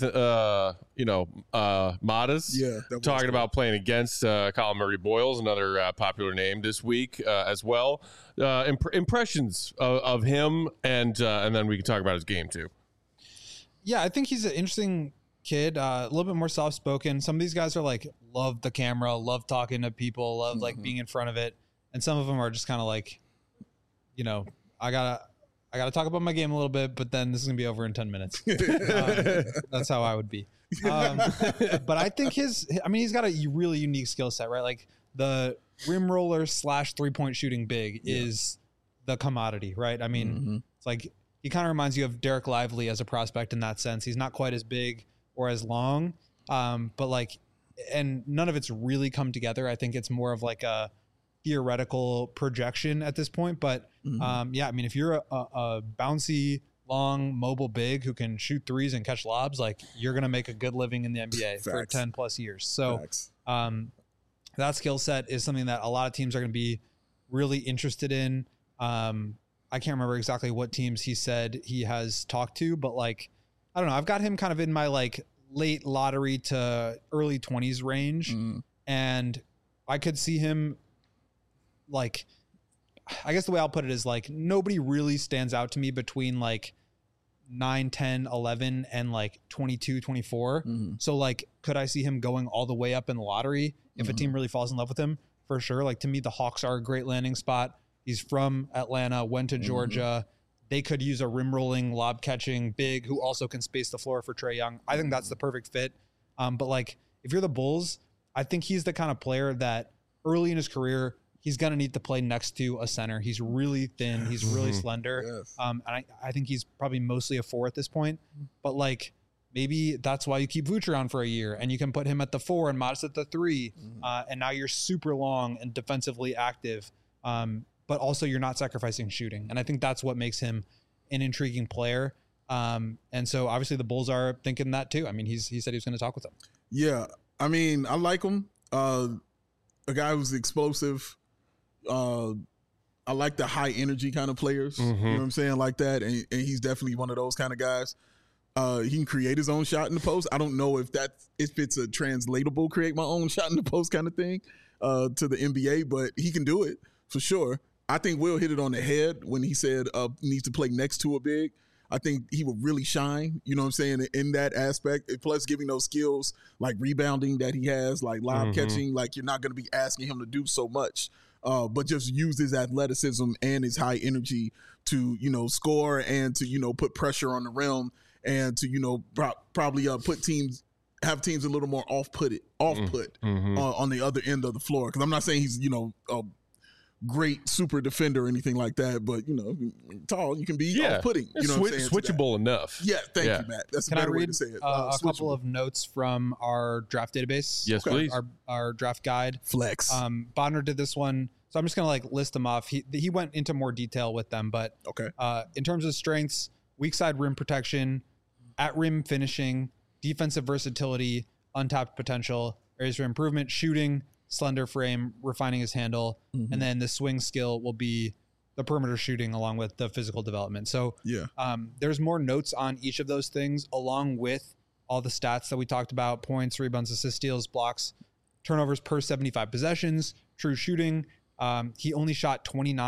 Speaker 1: Modest.
Speaker 3: Yeah,
Speaker 1: talking about playing against Colin Murray Boyles, another popular name this week as well. Impressions of him, and then we can talk about his game too.
Speaker 4: Yeah, I think he's an interesting kid, a little bit more soft-spoken. Some of these guys are like love the camera, love talking to people, love like being in front of it, and some of them are just kind of like, I gotta talk about my game a little bit, but then this is gonna be over in 10 minutes. That's how I would be. But I think he's got a really unique skill set, right? Like the rim roller / 3-point shooting big is the commodity, right? I mean, it's like he kind of reminds you of Derek Lively as a prospect in that sense. He's not quite as big or as long, but like, and none of it's really come together. I think it's more of like a theoretical projection at this point. But yeah, I mean, if you're a bouncy, long, mobile big who can shoot threes and catch lobs, like you're going to make a good living in the NBA for 10 plus years. So that skill set is something that a lot of teams are going to be really interested in. I can't remember exactly what teams he said he has talked to, but like, I don't know. I've got him kind of in my like late lottery to early 20s range. And I could see him like, I guess the way I'll put it is like, nobody really stands out to me between like 9, 10, 11 and like 22, 24. So like, could I see him going all the way up in the lottery if a team really falls in love with him? For sure. Like to me, the Hawks are a great landing spot. He's from Atlanta, went to Georgia. They could use a rim rolling, lob catching big who also can space the floor for Trae Young. I think that's the perfect fit. But like, if you're the Bulls, I think he's the kind of player that early in his career, he's going to need to play next to a center. He's really thin. He's really slender.
Speaker 3: Yes.
Speaker 4: And I think he's probably mostly a 4 at this point. But like maybe that's why you keep Vooch around for a year and you can put him at the 4 and Modest at the 3. And now you're super long and defensively active. But also you're not sacrificing shooting. And I think that's what makes him an intriguing player. And so obviously the Bulls are thinking that too. I mean, he said he was going to talk with them.
Speaker 3: Yeah. I mean, I like him. A guy who's explosive. I like the high energy kind of players. You know what I'm saying? Like that. And he's definitely one of those kind of guys. He can create his own shot in the post. I don't know if it's a translatable create my own shot in the post kind of thing to the NBA, but he can do it for sure. I think Will hit it on the head when he said needs to play next to a big. I think he will really shine, you know what I'm saying, in that aspect. Plus giving those skills like rebounding that he has, like lob catching, like you're not going to be asking him to do so much. But just use his athleticism and his high energy to, you know, score and to, you know, put pressure on the rim and to, you know, probably have teams a little more off-put on the other end of the floor. Because I'm not saying he's, you know, a great super defender or anything like that, but, you know, tall, you can be off-putting. You know what I'm saying?
Speaker 1: Switchable enough.
Speaker 3: Yeah, thank you, Matt. That's a better way to say it.
Speaker 4: A couple of notes from our draft database.
Speaker 1: Yes, please.
Speaker 4: Our draft guide.
Speaker 3: Flex.
Speaker 4: Bonner did this one. So I'm just going to like list them off. He went into more detail with them, but in terms of strengths, weak side rim protection, at rim finishing, defensive versatility, untapped potential, areas for improvement, shooting, slender frame, refining his handle, and then the swing skill will be the perimeter shooting along with the physical development. So there's more notes on each of those things along with all the stats that we talked about: points, rebounds, assists, steals, blocks, turnovers per 75 possessions, true shooting. He only shot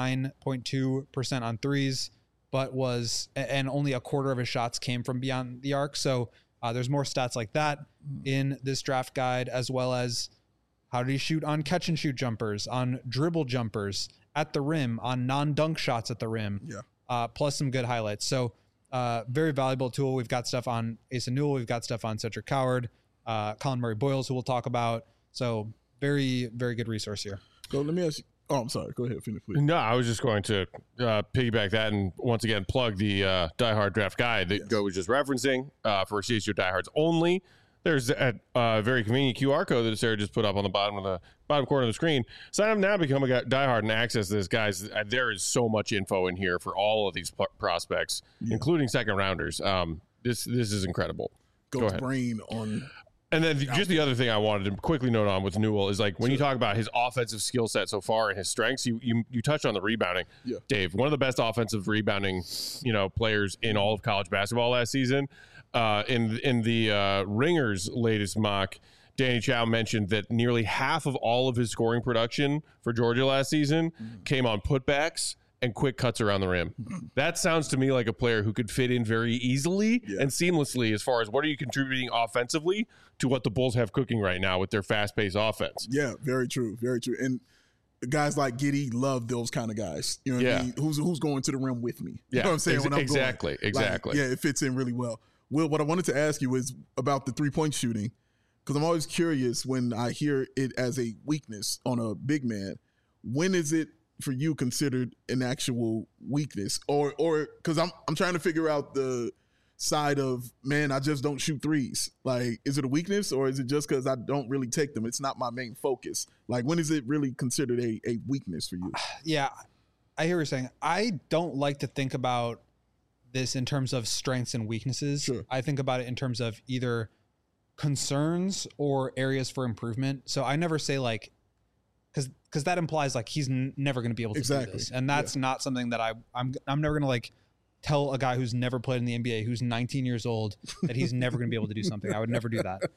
Speaker 4: 29.2% on threes, but and only a quarter of his shots came from beyond the arc. So there's more stats like that in this draft guide, as well as how did he shoot on catch and shoot jumpers, on dribble jumpers at the rim, on non-dunk shots at the rim, plus some good highlights. So very valuable tool. We've got stuff on Asa Newell. We've got stuff on Cedric Coward, Colin Murray Boyles, who we'll talk about. So very, very good resource here.
Speaker 3: So let me ask you. Oh, I'm sorry. Go ahead. Finish, please.
Speaker 1: No, I was just going to piggyback that and once again plug the Die Hard draft guide that Go was just referencing for CSU diehards only. There's a very convenient QR code that Sarah just put up on the bottom corner of the screen. Sign up now, become a diehard, and access this, guys. There is so much info in here for all of these prospects, including second rounders. This is incredible.
Speaker 3: Go ahead. Brain on.
Speaker 1: And then just the other thing I wanted to quickly note on with Newell is like when you talk about his offensive skill set so far and his strengths, you touched on the rebounding. Yeah. Dave, one of the best offensive rebounding, players in all of college basketball last season. In the Ringer's latest mock, Danny Chow mentioned that nearly half of all of his scoring production for Georgia last season came on putbacks and quick cuts around the rim. That sounds to me like a player who could fit in very easily and seamlessly as far as what are you contributing offensively to what the Bulls have cooking right now with their fast-paced offense.
Speaker 3: Yeah, very true. Very true. And guys like Giddey love those kind of guys. You know what I mean? Who's going to the rim with me? You know what I'm saying? When I'm
Speaker 1: exactly.
Speaker 3: It fits in really well. Will, what I wanted to ask you is about the three-point shooting, because I'm always curious when I hear it as a weakness on a big man. When is it for you considered an actual weakness, or because I'm trying to figure out the side of, man, I just don't shoot threes. Like, is it a weakness, or is it just because I don't really take them? It's not my main focus. Like, when is it really considered a weakness for you?
Speaker 4: Yeah, I hear what you're saying. I don't like to think about this in terms of strengths and weaknesses.
Speaker 3: Sure.
Speaker 4: I think about it in terms of either concerns or areas for improvement. So I never say like, because that implies like he's never going to be able to do this, and that's not something that I'm never going to like tell a guy who's never played in the NBA, who's 19 years old, that he's never going to be able to do something. I would never do that.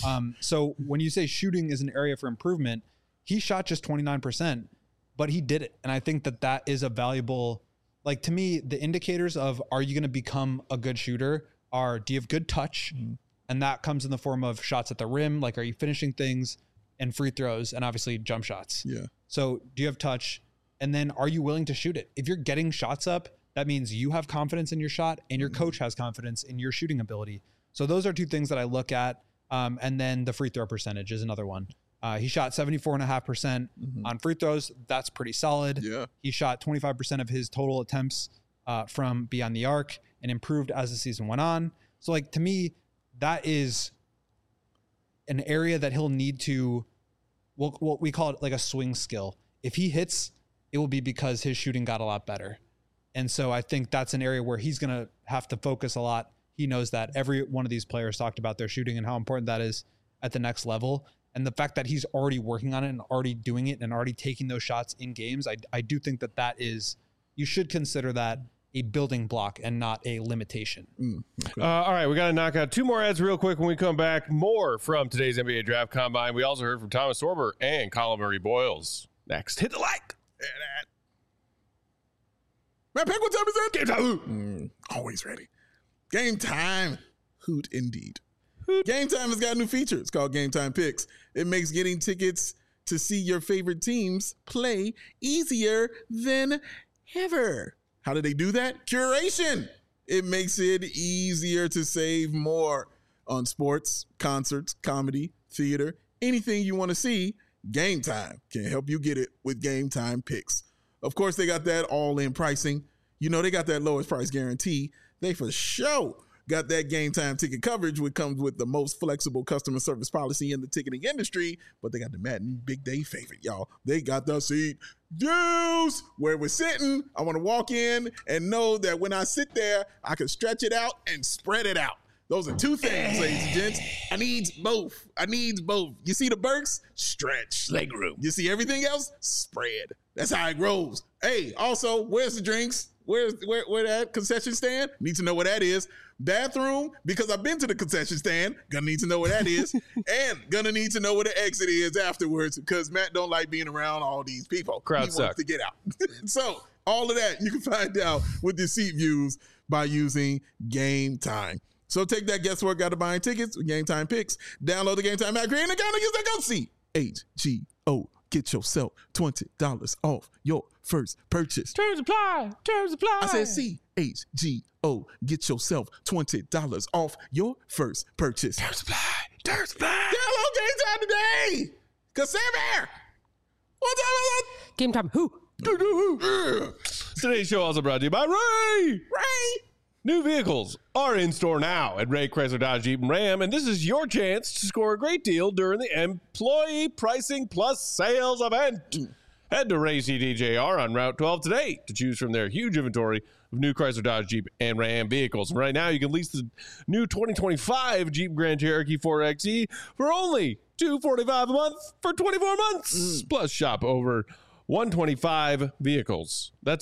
Speaker 4: So when you say shooting is an area for improvement, he shot just 29%, but he did it, and I think that is a valuable. Like, to me, the indicators of are you going to become a good shooter are, do you have good touch? And that comes in the form of shots at the rim. Like, are you finishing things, and free throws, and obviously jump shots.
Speaker 3: Yeah.
Speaker 4: So do you have touch? And then are you willing to shoot it? If you're getting shots up, that means you have confidence in your shot and your coach has confidence in your shooting ability. So those are two things that I look at. And then the free throw percentage is another one. He shot 74.5% on free throws. That's pretty solid.
Speaker 3: Yeah.
Speaker 4: He shot 25% of his total attempts from beyond the arc and improved as the season went on. So, like, to me, that is an area that he'll need to, what we call it like a swing skill. If he hits, it will be because his shooting got a lot better. And so I think that's an area where he's going to have to focus a lot. He knows that every one of these players talked about their shooting and how important that is at the next level. And the fact that he's already working on it and already doing it and already taking those shots in games, I do think that is, you should consider that a building block and not a limitation.
Speaker 3: Okay.
Speaker 1: All right, we got to knock out 2 more ads real quick when we come back. More from today's NBA Draft Combine. We also heard from Thomas Sorber and Colin Murray Boyles. Next, hit the like.
Speaker 3: Matt Peck, what time is it? Game time. Always ready. Game time. Hoot indeed. Game Time has got a new feature. It's called Game Time Picks. It makes getting tickets to see your favorite teams play easier than ever. How do they do that? Curation. It makes it easier to save more on sports, concerts, comedy, theater, anything you want to see. Game Time can help you get it with Game Time Picks. Of course, they got that all-in pricing. You know, they got that lowest price guarantee. They for sure got that Game Time ticket coverage, which comes with the most flexible customer service policy in the ticketing industry. But they got the Matt and Big Day favorite, y'all. They got the seat juice. Where we're sitting, I want to walk in and know that when I sit there, I can stretch it out and spread it out. Those are 2 things, ladies and gents. I need both. You see the Burks? Stretch. Leg room. You see everything else? Spread. That's how it grows. Hey, also, where's the drinks? Where that concession stand? Need to know where that is. Bathroom, because I've been to the concession stand. Gonna need to know where that is. And gonna need to know where the exit is afterwards, because Matt don't like being around all these people.
Speaker 1: Crowd
Speaker 3: He
Speaker 1: suck.
Speaker 3: wants to get out. So all of that you can find out with the seat views by using Game Time. So take that guesswork out of buying tickets with Game Time Picks. Download the Game Time app, create an account, and use that code CHGO. Get yourself $20 off your first purchase.
Speaker 1: Terms apply.
Speaker 3: I said CHGO. Get yourself $20 off your first purchase. Terms apply. Download Game Time today. Cause Sam here. What's up?
Speaker 2: Game Time. Who?
Speaker 1: Today's show also brought to you by Ray. New vehicles are in store now at Ray Chrysler Dodge Jeep and Ram, and this is your chance to score a great deal during the Employee Pricing Plus Sales event. Head to Ray CDJR on Route 12 today to choose from their huge inventory of new Chrysler Dodge Jeep and Ram vehicles. And right now, you can lease the new 2025 Jeep Grand Cherokee 4xe for only $245 a month for 24 months. Plus, shop over 125 vehicles. That's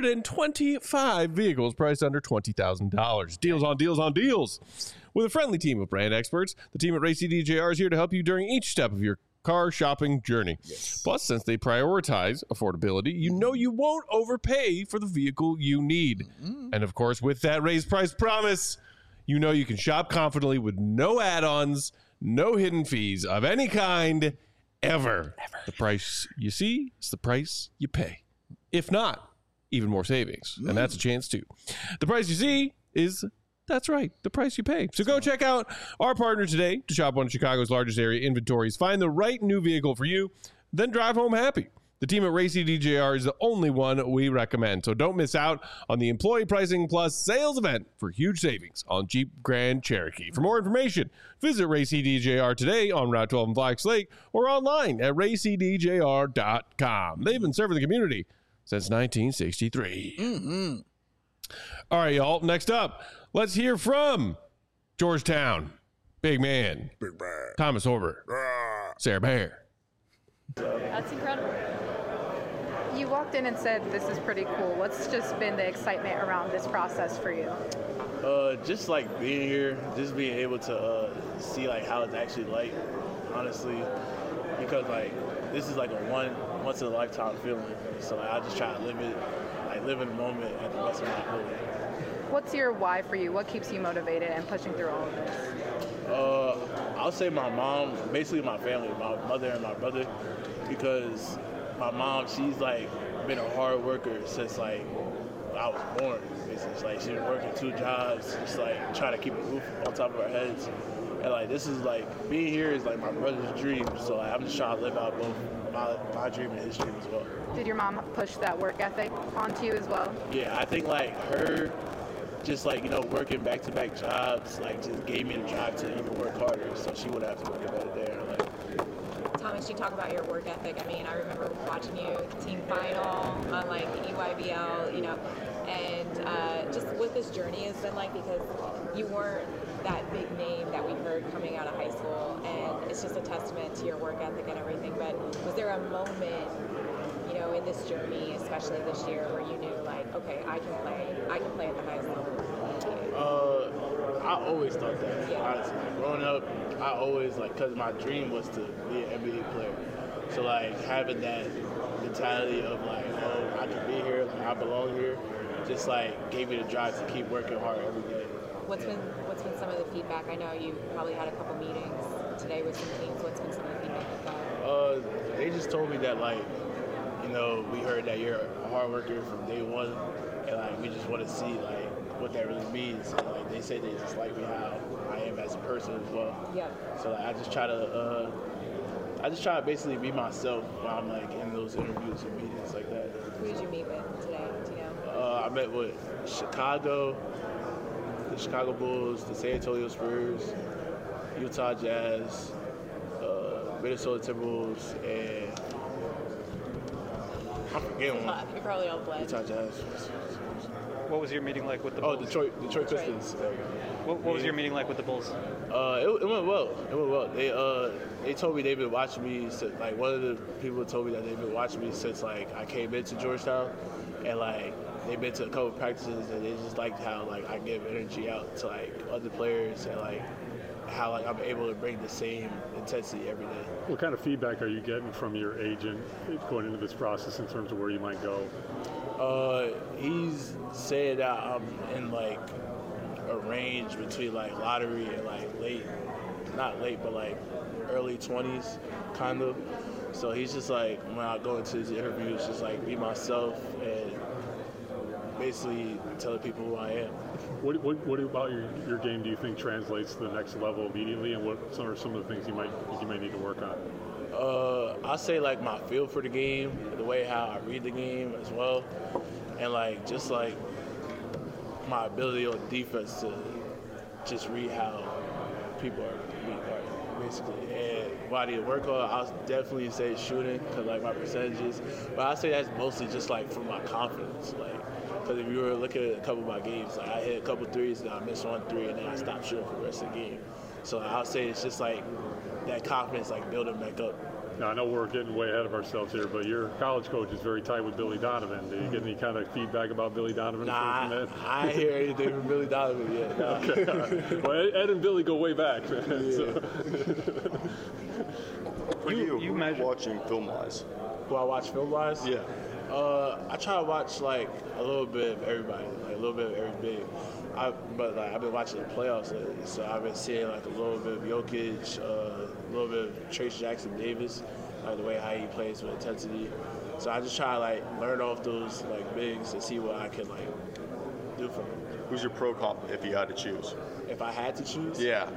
Speaker 1: 125 vehicles priced under $20,000. Deals on deals on deals. With a friendly team of brand experts, the team at Ray CDJR is here to help you during each step of your car shopping journey. Yes. Plus, since they prioritize affordability, you know you won't overpay for the vehicle you need. And of course, with that raised price promise, you know you can shop confidently with no add-ons, no hidden fees of any kind, ever. The price you see is the price you pay. If not, even more savings. And that's a chance too. The price you see is, that's right, the price you pay. So go check out our partner today to shop one of Chicago's largest area inventories. Find the right new vehicle for you, then drive home happy. The team at Ray CDJR is the only one we recommend. So don't miss out on the Employee Pricing Plus sales event for huge savings on Jeep Grand Cherokee. For more information, visit Ray CDJR today on Route 12 in Fox Lake or online at raycdjr.com. They've been serving the community since 1963. All right, y'all. Next up, let's hear from Georgetown. Big man. Thomas Sorber. Sarah Bear.
Speaker 11: That's incredible. You walked in and said, this is pretty cool. What's just been the excitement around this process for you?
Speaker 12: Just like being here, just being able to see like how it's actually like, honestly, because like this is like a once in a lifetime feeling. So like, I just try to live it, like live in the moment at the best of my ability.
Speaker 11: What's your why for you? What keeps you motivated and pushing through all of this?
Speaker 12: I'll say my mom, basically my family, my mother and my brother, because my mom, she's like been a hard worker since like I was born. Basically, it's like she's been working 2 jobs, just like trying to keep a roof on top of our heads. And like this is like being here is like my brother's dream. So like, I'm just trying to live out both my dream and his dream as well.
Speaker 11: Did your mom push that work ethic onto you as well?
Speaker 12: Yeah, I think like her just like, you know, working back-to-back jobs, like just gave me the drive to even work harder, so she would have to work better there. Like,
Speaker 13: Thomas, you talk about your work ethic. I mean, I remember watching you team final on like EYBL, you know, and just what this journey has been like, because you weren't that big name that we heard coming out of high school, and it's just a testament to your work ethic and everything. But was there a moment, you know, in this journey, especially this year, where you knew like, okay, I can play at the highest level?
Speaker 12: I always thought that.
Speaker 13: Yeah.
Speaker 12: Honestly, growing up, I always like, cause my dream was to be an NBA player. So like having that mentality of like, oh, I can be here, like I belong here, just like gave me the drive to keep working hard every day.
Speaker 13: What's been some of the feedback? I know you probably had a couple meetings today with some teams. What's been some of the feedback you've got?
Speaker 12: They just told me that like, you know, we heard that you're a hard worker from day one, and like we just want to see like what that really means. And like they say they just like me how I am as a person as well.
Speaker 13: Yeah.
Speaker 12: So like, I just try to basically be myself while I'm like in those interviews and meetings like that.
Speaker 13: Who did you meet with today? Do you know?
Speaker 12: I met with Chicago, the Chicago Bulls, the San Antonio Spurs, Utah Jazz, Minnesota Timberwolves, and I'm forgetting one.
Speaker 13: You're probably all blessed.
Speaker 12: Utah Jazz.
Speaker 10: What was your meeting like with the
Speaker 12: Bulls?
Speaker 10: Bulls?
Speaker 12: Detroit Pistons.
Speaker 10: What was your meeting like with the Bulls?
Speaker 12: It went well. It went well. They told me they've been watching me. Like one of the people told me that they've been watching me since like I came into Georgetown, and like they've been to a couple practices, and they just liked how like I give energy out to like other players, and like how like I'm able to bring the same intensity every day.
Speaker 14: What kind of feedback are you getting from your agent going into this process in terms of where you might go?
Speaker 12: He's saying that I'm in like a range between like lottery and like not late, but like early 20s, kind of. So he's just like, when I go into his interviews, just like be myself and basically telling people who I am.
Speaker 14: What about your game do you think translates to the next level immediately, and what are some of the things you might need to work on?
Speaker 12: I say like my feel for the game, the way how I read the game as well, and like just like my ability on defense to just read how people are being guarded, basically. And what I need to work on, I'll definitely say shooting, because like my percentages, but I say that's mostly just like for my confidence, like. Because if you were looking at a couple of my games, like I hit a couple threes, and I missed 1 3, and then I stopped shooting for the rest of the game. So I'll say it's just like that confidence, like building back up.
Speaker 14: Now I know we're getting way ahead of ourselves here, but your college coach is very tight with Billy Donovan. Did you get any kind of feedback about Billy Donovan?
Speaker 12: Nah, I ain't hear anything from Billy Donovan yet. Nah.
Speaker 14: Okay, all right. Well, Ed and Billy go way back, man.
Speaker 12: Yeah.
Speaker 14: So.
Speaker 15: What are you watching film-wise?
Speaker 12: Do I watch film-wise?
Speaker 15: Yeah.
Speaker 12: I try to watch like a little bit of everybody, like a little bit of every big. But like I've been watching the playoffs lately, so I've been seeing like a little bit of Jokic, a little bit of Trace Jackson Davis, like the way how he plays with intensity. So I just try to like learn off those like bigs and see what I can like do for them.
Speaker 15: Who's your pro comp if you had to choose?
Speaker 12: If I had to choose?
Speaker 15: Yeah.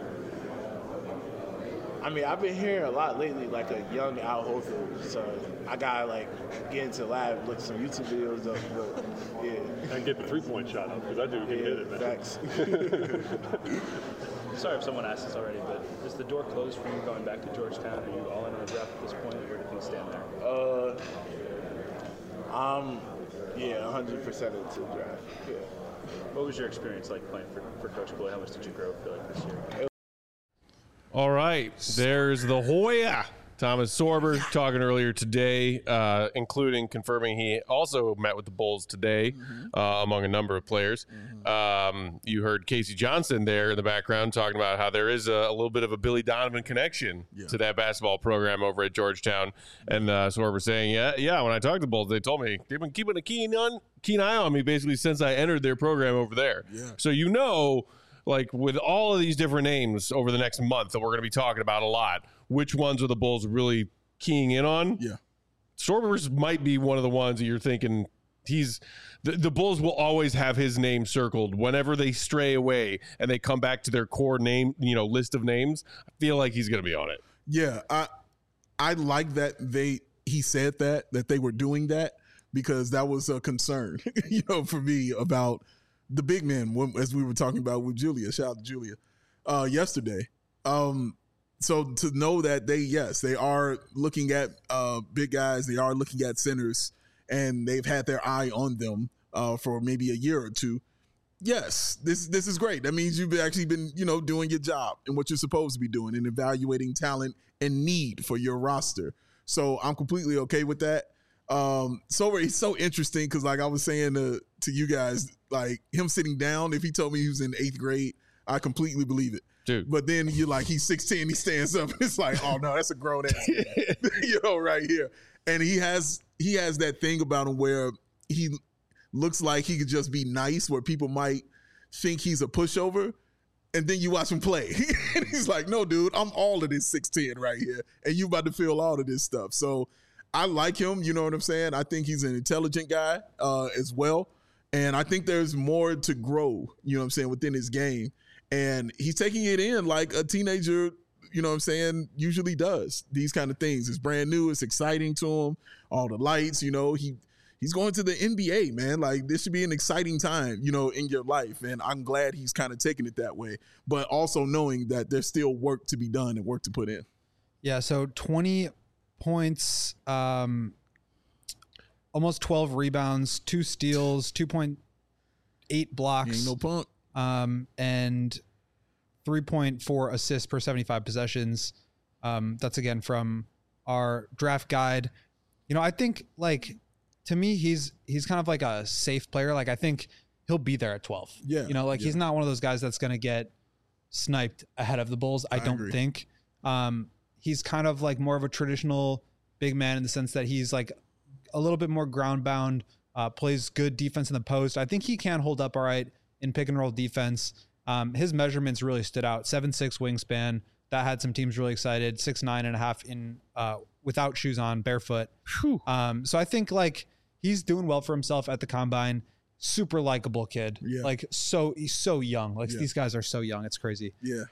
Speaker 12: I mean, I've been hearing a lot lately, like a young Al Horford. So I gotta like get into the lab, look at some YouTube videos up, but yeah.
Speaker 14: And get the 3-point shot up, because I do can hit it, man.
Speaker 12: Facts.
Speaker 16: Sorry if someone asked this already, but is the door closed for you going back to Georgetown? Are you all in on the draft at this point? Where do things stand there?
Speaker 12: I'm 100% into the draft. Yeah.
Speaker 16: What was your experience like playing for Coach Boyd? How much did you grow feel like this year?
Speaker 1: All right, there's the Hoya. Thomas Sorber talking earlier today, including confirming he also met with the Bulls today, among a number of players. You heard Casey Johnson there in the background talking about how there is a little bit of a Billy Donovan connection to that basketball program over at Georgetown. And Sorber saying, yeah, when I talked to the Bulls, they told me they've been keeping a keen eye on me basically since I entered their program over there.
Speaker 3: Yeah.
Speaker 1: So you know, like with all of these different names over the next month that we're going to be talking about a lot, which ones are the Bulls really keying in on?
Speaker 3: Yeah.
Speaker 1: Sorber's might be one of the ones that you're thinking the Bulls will always have his name circled whenever they stray away and they come back to their core name, list of names. I feel like he's going to be on it.
Speaker 3: Yeah, I like that he said that they were doing that, because that was a concern, for me about the big men, as we were talking about with Julia. Shout out to Julia yesterday. So to know that they are looking at big guys, they are looking at centers, and they've had their eye on them for maybe a year or two. Yes, this is great. That means you've actually been, doing your job and what you're supposed to be doing and evaluating talent and need for your roster. So I'm completely okay with that. So it's so interesting because, like I was saying to you guys, like him sitting down, if he told me he was in 8th grade, I completely believe it.
Speaker 1: Dude.
Speaker 3: But then you're like, he's 16, he stands up. It's like, oh no, that's a grown ass man, right here. And he has that thing about him where he looks like he could just be nice, where people might think he's a pushover. And then you watch him play. And he's like, no, dude, I'm all of this 6'10" right here. And you about to feel all of this stuff. So I like him, you know what I'm saying? I think he's an intelligent guy as well. And I think there's more to grow, you know what I'm saying, within his game. And he's taking it in like a teenager, you know what I'm saying, usually does. These kind of things. It's brand new. It's exciting to him. All the lights, he's going to the NBA, man. Like, this should be an exciting time, in your life. And I'm glad he's kind of taking it that way. But also knowing that there's still work to be done and work to put in.
Speaker 4: Yeah, so 20 points, almost 12 rebounds, 2 steals, 2.8 blocks.
Speaker 3: Ain't no punk.
Speaker 4: And 3.4 assists per 75 possessions. That's again from our draft guide. I think, like, to me, he's kind of like a safe player. Like, I think he'll be there at 12.
Speaker 3: Yeah.
Speaker 4: He's not one of those guys that's going to get sniped ahead of the Bulls. I don't
Speaker 3: agree.
Speaker 4: think. He's kind of like more of a traditional big man in the sense that he's like a little bit more ground bound, plays good defense in the post. I think he can hold up all right in pick and roll defense. His measurements really stood out. 7'6" wingspan. That had some teams really excited. 6'9.5" in without shoes on, barefoot. So I think like he's doing well for himself at the combine. Super likable kid.
Speaker 3: Yeah.
Speaker 4: Like he's so young. Like these guys are so young. It's crazy.
Speaker 3: Yeah.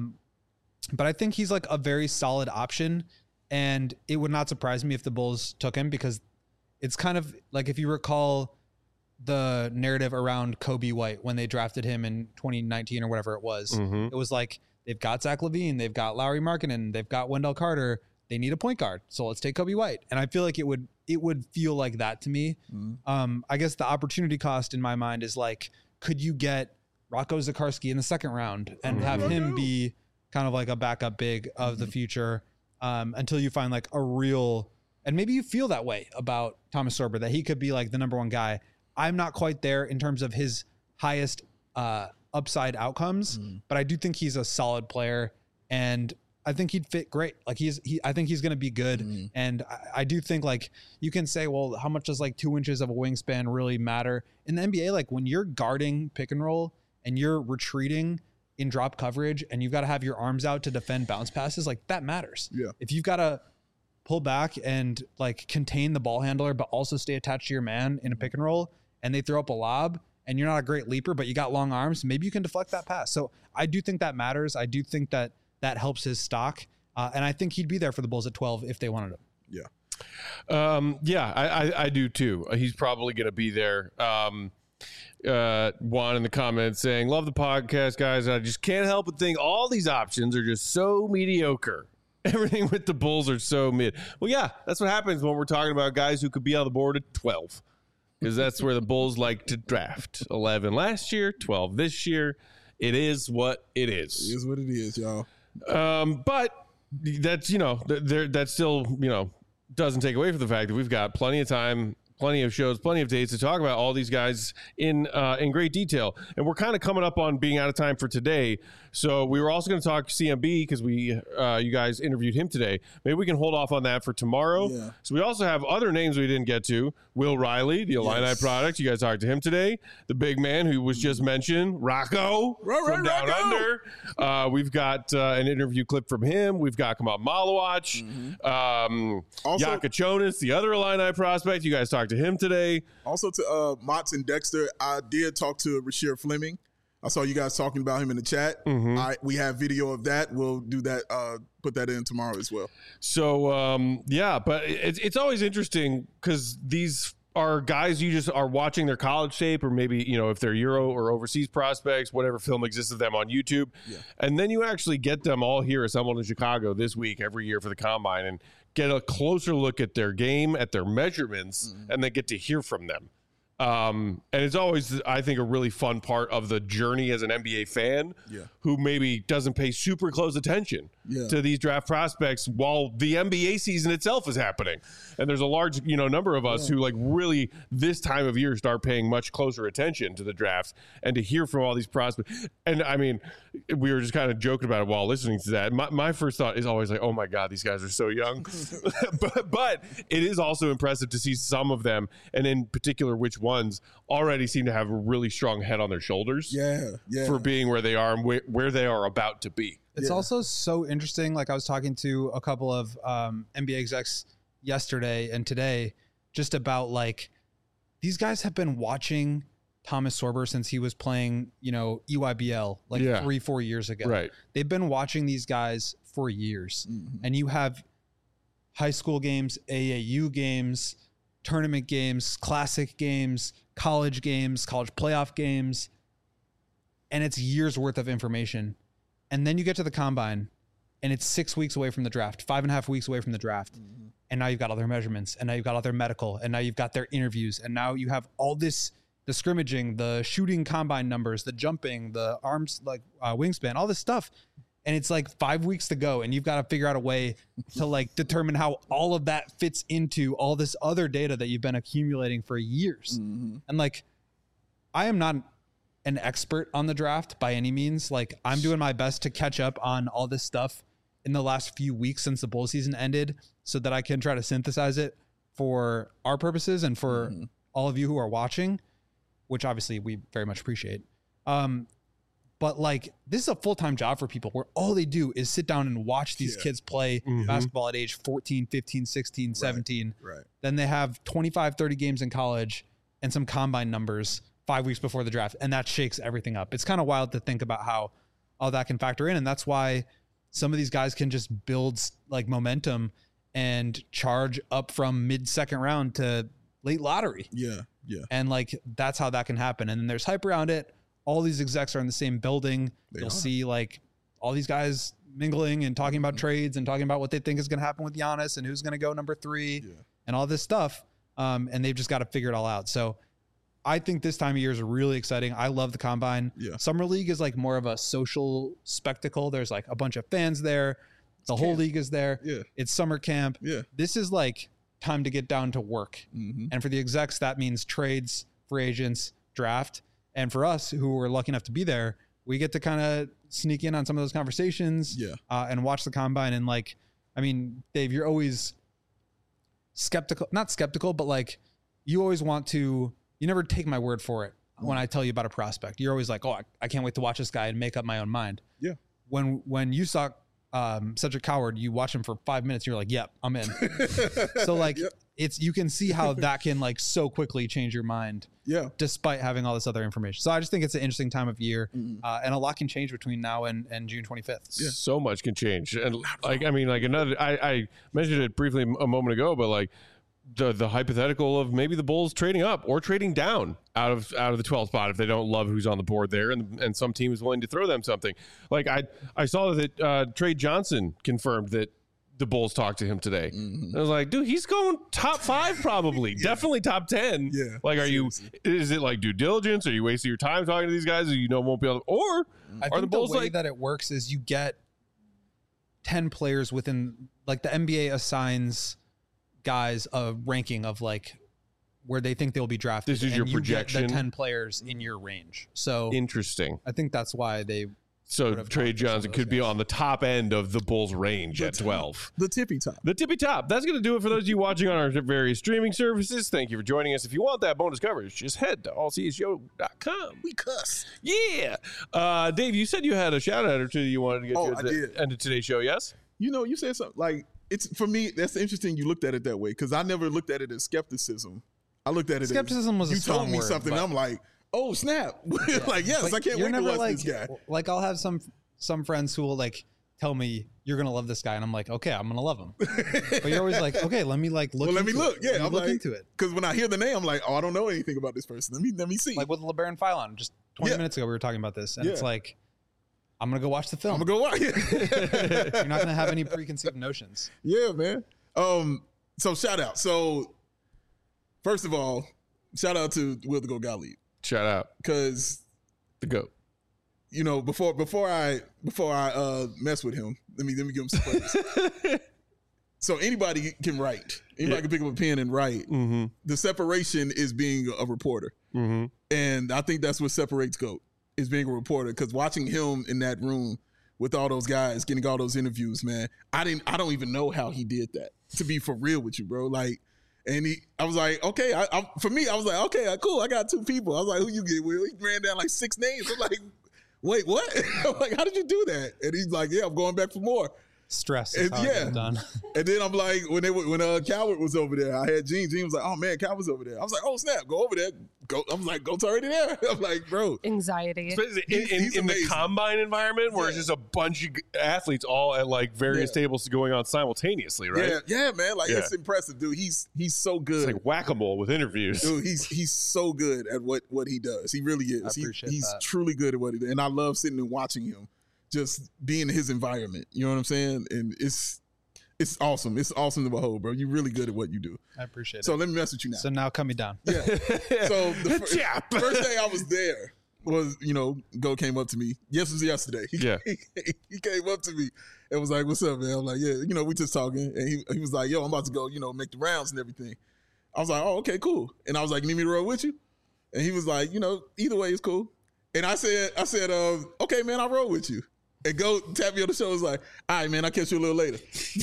Speaker 4: But I think he's like a very solid option, and it would not surprise me if the Bulls took him, because it's kind of like, if you recall the narrative around Kobe White when they drafted him in 2019 or whatever it was, it was like, they've got Zach LaVine, they've got Lauri Markkanen, they've got Wendell Carter, they need a point guard, so let's take Kobe White. And I feel like it would feel like that to me. I guess the opportunity cost in my mind is like, could you get Rocco Zikarsky in the second round and have him be kind of like a backup big of the future until you find like a real, and maybe you feel that way about Thomas Sorber, that he could be like the number one guy. I'm not quite there in terms of his highest upside outcomes, but I do think he's a solid player, and I think he'd fit great. Like I think he's going to be good. And I do think, like, you can say, well, how much does like 2 inches of a wingspan really matter in the NBA? Like, when you're guarding pick and roll and you're retreating in drop coverage and you've got to have your arms out to defend bounce passes, like, that matters.
Speaker 3: Yeah.
Speaker 4: If you've got to pull back and like contain the ball handler, but also stay attached to your man in a pick and roll, and they throw up a lob and you're not a great leaper, but you got long arms, maybe you can deflect that pass. So I do think that matters. I do think that helps his stock. And I think he'd be there for the Bulls at 12 if they wanted him.
Speaker 1: Yeah. I do too. He's probably going to be there. Juan in the comments saying, love the podcast, guys. I just can't help but think all these options are just so mediocre. Everything with the Bulls are so mid. Well, yeah, that's what happens when we're talking about guys who could be on the board at 12, because that's where the Bulls like to draft. 11 last year, 12 this year. It is what it is.
Speaker 3: It is what it is, y'all.
Speaker 1: But that's, that still, doesn't take away from the fact that we've got plenty of time, plenty of shows, plenty of days to talk about all these guys in great detail. And we're kind of coming up on being out of time for today. So we were also going to talk CMB because you guys interviewed him today. Maybe we can hold off on that for tomorrow. Yeah. So we also have other names we didn't get to. Will Riley, the Illini product. You guys talked to him today. The big man who was just mentioned, Rocco from Down Under. We've got an interview clip from him. We've got Kamal Malawach. Yaka Chonis, the other Illini prospect. You guys talked talk to him today.
Speaker 3: Also to Motts and Dexter, I did talk to Rasheer Fleming. I saw you guys talking about him in the chat. We have video of that. We'll do that, put that in tomorrow as well.
Speaker 1: So, but it's always interesting because these are guys you just are watching their college tape, or maybe, if they're Euro or overseas prospects, whatever film exists of them on YouTube. Yeah. And then you actually get them all here assembled in Chicago this week every year for the Combine and get a closer look at their game, at their measurements, and then get to hear from them. And it's always, I think, a really fun part of the journey as an NBA fan who maybe doesn't pay super close attention to these draft prospects while the NBA season itself is happening. And there's a large, number of us who really this time of year start paying much closer attention to the draft and to hear from all these prospects. And I mean, we were just kind of joking about it while listening to that. My first thought is always like, oh my God, these guys are so young. but it is also impressive to see some of them, and in particular, which ones already seem to have a really strong head on their shoulders for being where they are and where they are about to be.
Speaker 4: It's also so interesting. Like, I was talking to a couple of NBA execs yesterday and today just about these guys have been watching Thomas Sorber since he was playing, EYBL 3-4 years ago. Right. They've been watching these guys for years. And you have high school games, AAU games, tournament games, classic games, college playoff games, and it's years worth of information. And then you get to the Combine and it's 6 weeks away from the draft, 5.5 weeks away from the draft. And now you've got all their measurements, and now you've got all their medical, and now you've got their interviews, and now you have all this, the scrimmaging, the shooting combine numbers, the jumping, the arms, wingspan, all this stuff. And it's 5 weeks to go, and you've got to figure out a way to determine how all of that fits into all this other data that you've been accumulating for years. And I am not an expert on the draft by any means. I'm doing my best to catch up on all this stuff in the last few weeks since the bowl season ended, so that I can try to synthesize it for our purposes and for all of you who are watching, which obviously we very much appreciate. But this is a full-time job for people where all they do is sit down and watch these kids play basketball at age 14, 15, 16, 17. Right. Then they have 25, 30 games in college and some combine numbers 5 weeks before the draft. And that shakes everything up. It's kind of wild to think about how all that can factor in. And that's why some of these guys can just build momentum and charge up from mid-second round to late lottery. Yeah. And that's how that can happen. And then there's hype around it. All these execs are in the same building. You'll see all these guys mingling and talking about trades and talking about what they think is going to happen with Giannis and who's going to go number 3 and all this stuff. And they've just got to figure it all out. So I think this time of year is really exciting. I love the Combine. Summer League is more of a social spectacle. There's a bunch of fans there. The whole league is there. It's summer camp. This is time to get down to work. And for the execs, that means trades, free agents, draft. And for us who were lucky enough to be there, we get to kind of sneak in on some of those conversations and watch the Combine. And Dave, you're always not skeptical, but you always want to, you never take my word for it when I tell you about a prospect. You're always oh, I can't wait to watch this guy and make up my own mind. Yeah. When you saw Cedric Coward, you watch him for 5 minutes, you're yep, I'm in. So it's, you can see how that can so quickly change your mind. Yeah. Despite having all this other information. So I just think it's an interesting time of year, and a lot can change between now and June 25th.
Speaker 1: Yeah. So much can change. And I mentioned it briefly a moment ago, but the hypothetical of maybe the Bulls trading up or trading down out of the 12th spot if they don't love who's on the board there, and some team is willing to throw them something. I saw that Trey Johnson confirmed that the Bulls talked to him today. I was dude, he's going top 5 probably. Definitely top 10. Yeah. Is it due diligence? Are you wasting your time talking to these guys who won't be able to, or
Speaker 4: I think the Bulls way that it works is you get 10 players within, the NBA assigns guys a ranking of where they think they'll be drafted.
Speaker 1: This is your projection.
Speaker 4: Get the 10 players in your range. So
Speaker 1: interesting.
Speaker 4: I think that's why they.
Speaker 1: So Trey Johnson could be on the top end of the Bulls range at 12.
Speaker 3: The tippy top.
Speaker 1: The tippy top. That's going to do it for those of you watching on our various streaming services. Thank you for joining us. If you want that bonus coverage, just head to allcshow.com.
Speaker 3: We cuss.
Speaker 1: Yeah. Dave, you said you had a shout out or two you wanted to get to at the end of today's show, yes?
Speaker 3: You said something it's, for me, that's interesting you looked at it that way, because I never looked at it as skepticism. I looked at it.
Speaker 4: Skepticism was a
Speaker 3: you
Speaker 4: strong
Speaker 3: told me
Speaker 4: word,
Speaker 3: something.
Speaker 4: but-
Speaker 3: I'm like, oh snap! Like yes,
Speaker 4: But
Speaker 3: I can't
Speaker 4: you're
Speaker 3: wait to
Speaker 4: never
Speaker 3: watch this guy.
Speaker 4: Like I'll have some friends who will like tell me you're gonna love this guy, and I'm like, okay, I'm gonna love him. But you're always like, okay, let me like look.
Speaker 3: Well, let me
Speaker 4: into
Speaker 3: look.
Speaker 4: it.
Speaker 3: Yeah,
Speaker 4: Let me
Speaker 3: I'm
Speaker 4: look
Speaker 3: like,
Speaker 4: into it.
Speaker 3: Because when I hear the name, I'm like, oh, I don't know anything about this person. Let me see.
Speaker 4: Like with LeBaron Philon, just 20 minutes ago, we were talking about this, and
Speaker 3: Yeah.
Speaker 4: it's like, I'm gonna go watch the film.
Speaker 3: I'm gonna go watch.
Speaker 4: You're not gonna have any preconceived notions.
Speaker 3: Yeah, man. So shout out. So first of all, shout out to Will the Go Gottlieb.
Speaker 1: Shout out
Speaker 3: because
Speaker 1: the GOAT.
Speaker 3: You know, before I mess with him, let me give him some praise. So anybody can write. Anybody can pick up a pen and write.
Speaker 1: Mm-hmm.
Speaker 3: The separation is being a reporter, and I think that's what separates GOAT is being a reporter. Because watching him in that room with all those guys, getting all those interviews, man, I don't even know how he did that. To be for real with you, bro, like. And I was like, okay. For me, I was like, okay, cool. I got two people. I was like, who you get, Will? He ran down like 6 names. I'm like, wait, what? I'm like, how did you do that? And he's like, yeah, I'm going back for more.
Speaker 4: Stress is how I get it done.
Speaker 3: And then I'm like, when Calvert was over there, I had Gene. Gene was like, oh man, Calvert's over there. I was like, oh snap, go over there. Go. I was like, go to already there. I'm like, bro,
Speaker 2: anxiety.
Speaker 1: In the combine environment where it's just a bunch of athletes all at like various tables going on simultaneously, right?
Speaker 3: Yeah, man. Like it's impressive, dude. He's so good.
Speaker 1: It's like whack-a-mole with interviews.
Speaker 3: Dude, he's so good at what he does. He really is. He's truly good at what he does. And I love sitting and watching him. Just being in his environment, you know what I'm saying? And it's awesome. It's awesome to behold, bro. You're really good at what you do.
Speaker 4: I appreciate it.
Speaker 3: So let me mess with you now.
Speaker 4: So now cut me down.
Speaker 3: Yeah. So the first day I was there was, Go came up to me. Yes, it was yesterday. He came up to me and was like, what's up, man? I'm like, yeah, we just talking. And he was like, yo, I'm about to go, make the rounds and everything. I was like, oh, okay, cool. And I was like, you need me to roll with you? And he was like, either way is cool. And I said, okay, man, I'll roll with you. And Go tap me on the shoulder, was like, all right, man, I'll catch you a little later.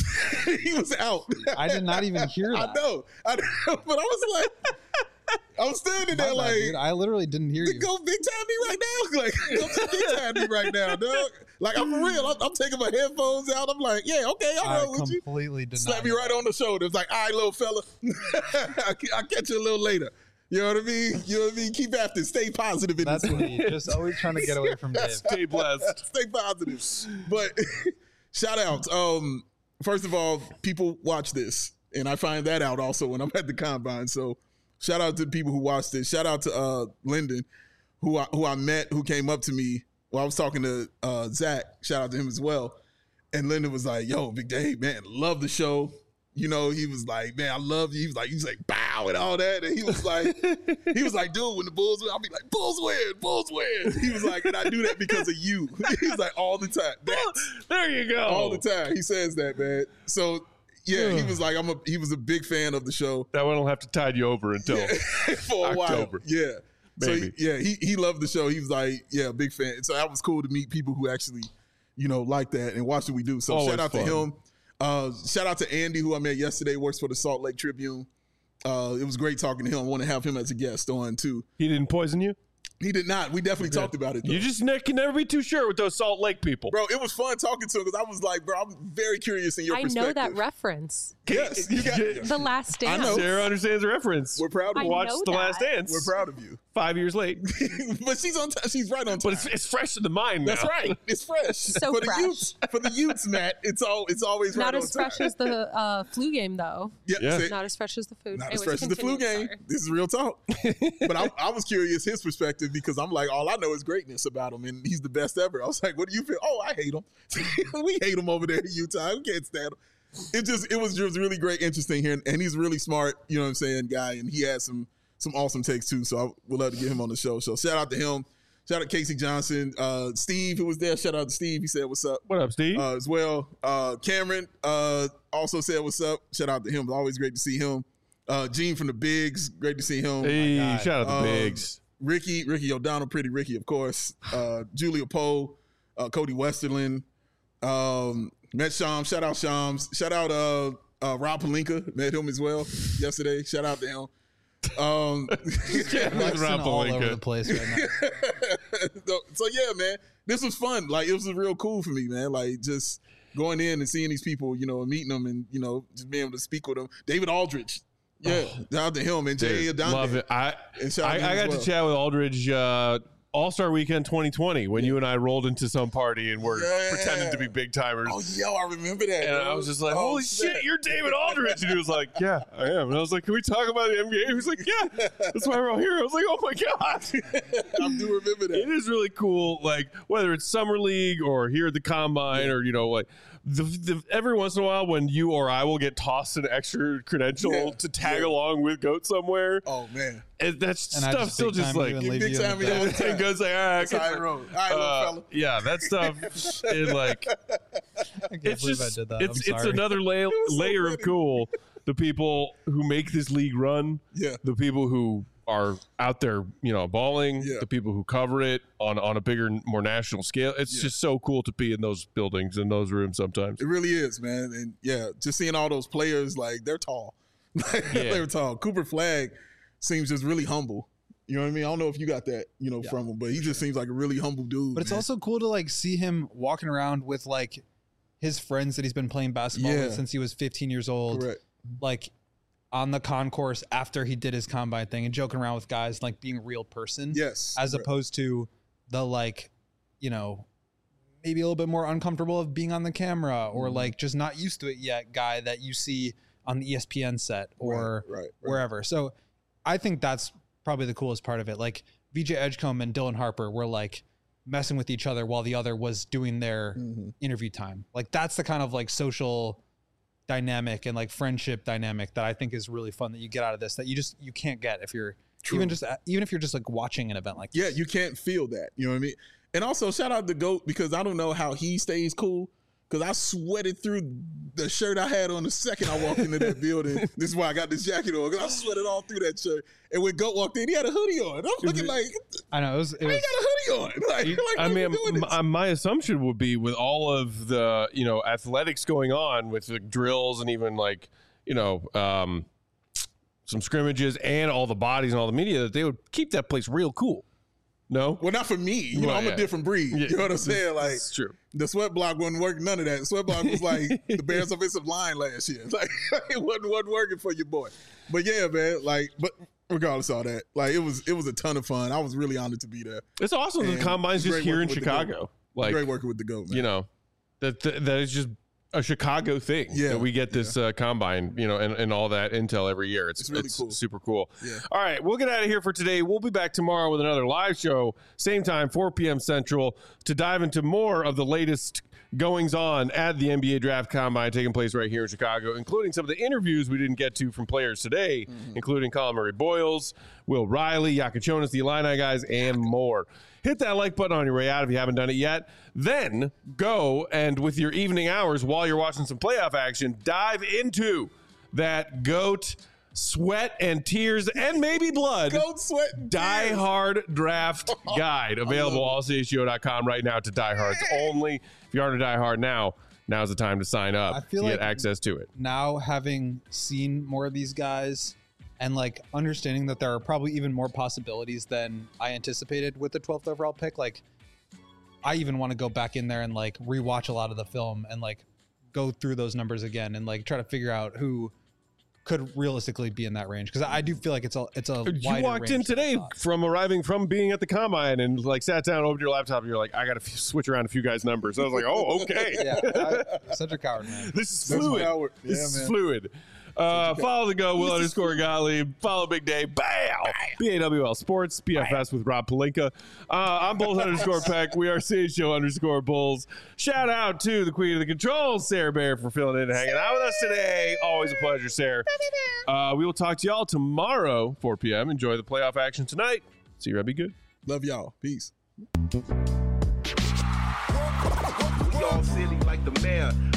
Speaker 3: He was out.
Speaker 4: I did not even hear that.
Speaker 3: I know. But I was like, I was standing there like,
Speaker 4: dude, I literally didn't hear you.
Speaker 3: Go big time me right now. Like, go big time me right now, dog. Like, I'm for real. I'm taking my headphones out. I'm like, yeah, okay, I'll roll with you.
Speaker 4: Completely did
Speaker 3: Slap me right on the shoulder. It's like, all right, little fella. I'll catch you a little later. You know what I mean? Keep after it. Stay positive in
Speaker 4: That's
Speaker 3: this one.
Speaker 4: me. Just always trying to get away from Dave.
Speaker 1: Stay blessed.
Speaker 3: Stay positive. But shout out. First of all, people watch this. And I find that out also when I'm at the combine. So shout out to the people who watched this. Shout out to Lyndon, who I met, who came up to me while I was talking to Zach. Shout out to him as well. And Lyndon was like, yo, Big Dave, man, love the show. He was like, man, I love you. He was like, bow and all that. And he was like, dude, when the Bulls win, I'll be like, Bulls win. He was like, and I do that because of you. He's like, all the time.
Speaker 1: There you go.
Speaker 3: All the time. He says that, man. So yeah, he was like, he was a big fan of the show.
Speaker 1: That one will have to tide you over until
Speaker 3: for a
Speaker 1: October.
Speaker 3: while. Yeah.
Speaker 1: Maybe.
Speaker 3: So he loved the show. He was like, yeah, big fan. So that was cool to meet people who actually, like that and watch what we do. So
Speaker 1: Always
Speaker 3: shout out
Speaker 1: fun.
Speaker 3: to him. Shout out to Andy, who I met yesterday, works for the Salt Lake Tribune. It was great talking to him. I want to have him as a guest on too.
Speaker 1: He didn't poison you?
Speaker 3: He did not. We definitely talked about it, though.
Speaker 1: You just can never be too sure with those Salt Lake people.
Speaker 3: Bro, it was fun talking to him because I was like, bro, I'm very curious in your
Speaker 2: I
Speaker 3: perspective.
Speaker 2: know that reference.
Speaker 3: Yes, you got
Speaker 2: The Last Dance.
Speaker 3: I know.
Speaker 1: Sarah understands the reference.
Speaker 3: We're proud of you.
Speaker 1: Watch
Speaker 2: know
Speaker 1: The
Speaker 2: that.
Speaker 1: Last Dance.
Speaker 3: We're proud of you.
Speaker 1: 5 years late.
Speaker 3: But she's on time. She's right on time.
Speaker 1: But it's fresh in the mind now.
Speaker 3: That's right. It's fresh.
Speaker 2: So
Speaker 3: for
Speaker 2: fresh.
Speaker 3: the youths. For the youths, Matt, it's always right
Speaker 2: Not
Speaker 3: on
Speaker 2: as
Speaker 3: time.
Speaker 2: fresh as the flu game, though.
Speaker 3: Yeah. See,
Speaker 2: Not as fresh as the food.
Speaker 3: not
Speaker 2: Anyways,
Speaker 3: as fresh as the flu
Speaker 2: continue,
Speaker 3: game.
Speaker 2: sorry.
Speaker 3: This is real talk. But I was curious his perspective because I'm like, all I know is greatness about him, and he's the best ever. I was like, what do you feel? Oh, I hate him. We hate him over there in Utah. We can't stand him. It was just really great, interesting here, and he's really smart. You know what I'm saying, guy, and he has some awesome takes too. So I would love to get him on the show. So shout out to him. Shout out to Casey Johnson, Steve, who was there. Shout out to Steve. He said, "What's up?"
Speaker 1: What up, Steve?
Speaker 3: As well. Cameron also said, "What's up?" Shout out to him. It's always great to see him. Gene from the Bigs, great to see him.
Speaker 1: Hey, shout out to Biggs.
Speaker 3: Ricky O'Donnell, pretty Ricky, of course. Julia Poe, Cody Westerland, met Shams. Shout out Shams. Shout out Rob Pelinka. Met him as well yesterday. Shout out to him.
Speaker 4: Flexing all over the place right now.
Speaker 3: So yeah, man, this was fun. Like, it was real cool for me, man. Like, just going in and seeing these people, and meeting them, and just being able to speak with them. David Aldridge, Yeah, down to him and Jay
Speaker 1: Dude,
Speaker 3: Adonde.
Speaker 1: love it. I got to chat with Aldridge All-Star Weekend 2020 when you and I rolled into some party and were pretending to be big timers.
Speaker 3: Oh, yo, I remember that.
Speaker 1: And
Speaker 3: bro.
Speaker 1: I was just like, holy shit, you're David Aldridge. And he was like, yeah, I am. And I was like, can we talk about the NBA? He was like, yeah, that's why we're all here. I was like, oh my God.
Speaker 3: I do remember that.
Speaker 1: It is really cool. Like, whether it's Summer League or here at the Combine or, like, every once in a while when you or I will get tossed an extra credential to tag along with GOAT somewhere.
Speaker 3: Oh, man.
Speaker 1: That stuff still just like
Speaker 3: big time.
Speaker 1: It goes like, all right,
Speaker 3: That's how I roll. All right, little fella.
Speaker 1: yeah, that stuff is like it's just
Speaker 4: I did that.
Speaker 1: it's another layer of cool. The people who make this league run, the people who are out there, balling, the people who cover it on a bigger, more national scale. It's just so cool to be in those buildings, in those rooms sometimes.
Speaker 3: It really is, man. And just seeing all those players, like, they're tall. They're tall. Cooper Flagg seems just really humble. You know what I mean? I don't know if you got that, from him, but he just seems like a really humble dude.
Speaker 4: But it's also cool to like see him walking around with like his friends that he's been playing basketball with since he was 15 years old.
Speaker 3: Correct.
Speaker 4: Like on the concourse after he did his combine thing and joking around with guys, like being a real person.
Speaker 3: Yes.
Speaker 4: As opposed to the like, maybe a little bit more uncomfortable of being on the camera or like just not used to it yet guy that you see on the ESPN set or wherever. So I think that's probably the coolest part of it. Like VJ Edgecombe and Dylan Harper were like messing with each other while the other was doing their interview time. Like that's the kind of like social dynamic and like friendship dynamic that I think is really fun that you get out of this that you can't get if you're even if you're just like watching an event like this.
Speaker 3: Yeah, you can't feel that. You know what I mean? And also shout out to GOAT because I don't know how he stays cool. Because I sweated through the shirt I had on the second I walked into that building. This is why I got this jacket on. Because I sweated all through that shirt. And when GOAT walked in, he had a hoodie on. I'm looking like,
Speaker 4: I know. He
Speaker 3: got a hoodie on.
Speaker 1: My assumption would be with all of the, athletics going on with the drills and even like, some scrimmages and all the bodies and all the media that they would keep that place real cool. No?
Speaker 3: Well, not for me. I'm a different breed.
Speaker 1: Yeah.
Speaker 3: You know what I'm saying? Like,
Speaker 1: it's true.
Speaker 3: The sweat block wasn't working. None of that. The sweat block was like the Bears offensive line last year. Like, it wasn't working for your boy. But yeah, man. Like, but regardless of all that, like, it was a ton of fun. I was really honored to be there.
Speaker 1: It's awesome. The Combine's just here in Chicago. Like,
Speaker 3: great working with the GOAT, man.
Speaker 1: That is just a Chicago thing.
Speaker 3: Yeah,
Speaker 1: that we get this Combine, and all that intel every year. It's really cool. Super cool.
Speaker 3: Yeah.
Speaker 1: All right, we'll get out of here for today. We'll be back tomorrow with another live show, same time, 4 p.m. Central, to dive into more of the latest goings on at the NBA Draft Combine taking place right here in Chicago, including some of the interviews we didn't get to from players today, including Colin Murray-Boyles, Will Riley, Yakachonis, the Illini guys, and more. Hit that like button on your way out if you haven't done it yet. Then go and with your evening hours while you're watching some playoff action, dive into that GOAT sweat and tears and maybe blood
Speaker 3: GOAT sweat and
Speaker 1: Die Hard draft guide available allchgo.com right now to diehards only. If you aren't a diehard now's the time to sign up to get access to it.
Speaker 4: Now having seen more of these guys and like understanding that there are probably even more possibilities than I anticipated with the 12th overall pick. Like I even want to go back in there and like rewatch a lot of the film and like go through those numbers again and like try to figure out who could realistically be in that range. Cause I do feel like it's a
Speaker 1: you walked in today from being at the Combine and like sat down, opened your laptop and you're like, I got to switch around a few guys' numbers. I was like, oh, okay.
Speaker 4: Such a coward, man.
Speaker 1: This is fluid. This is fluid. Follow the Go, Will_Gottlieb. Follow Big Day. Bow. BAWL Sports, PFS with Rob Pelinka. I'm Bulls_Peck. We are CHO_Bulls. Shout out to the Queen of the Controls, Sarah Bear, for filling in and hanging out with us today. Always a pleasure, Sarah. We will talk to y'all tomorrow, 4 p.m. Enjoy the playoff action tonight. See you, Be good.
Speaker 3: Love y'all. Peace.
Speaker 17: We all silly like the mayor.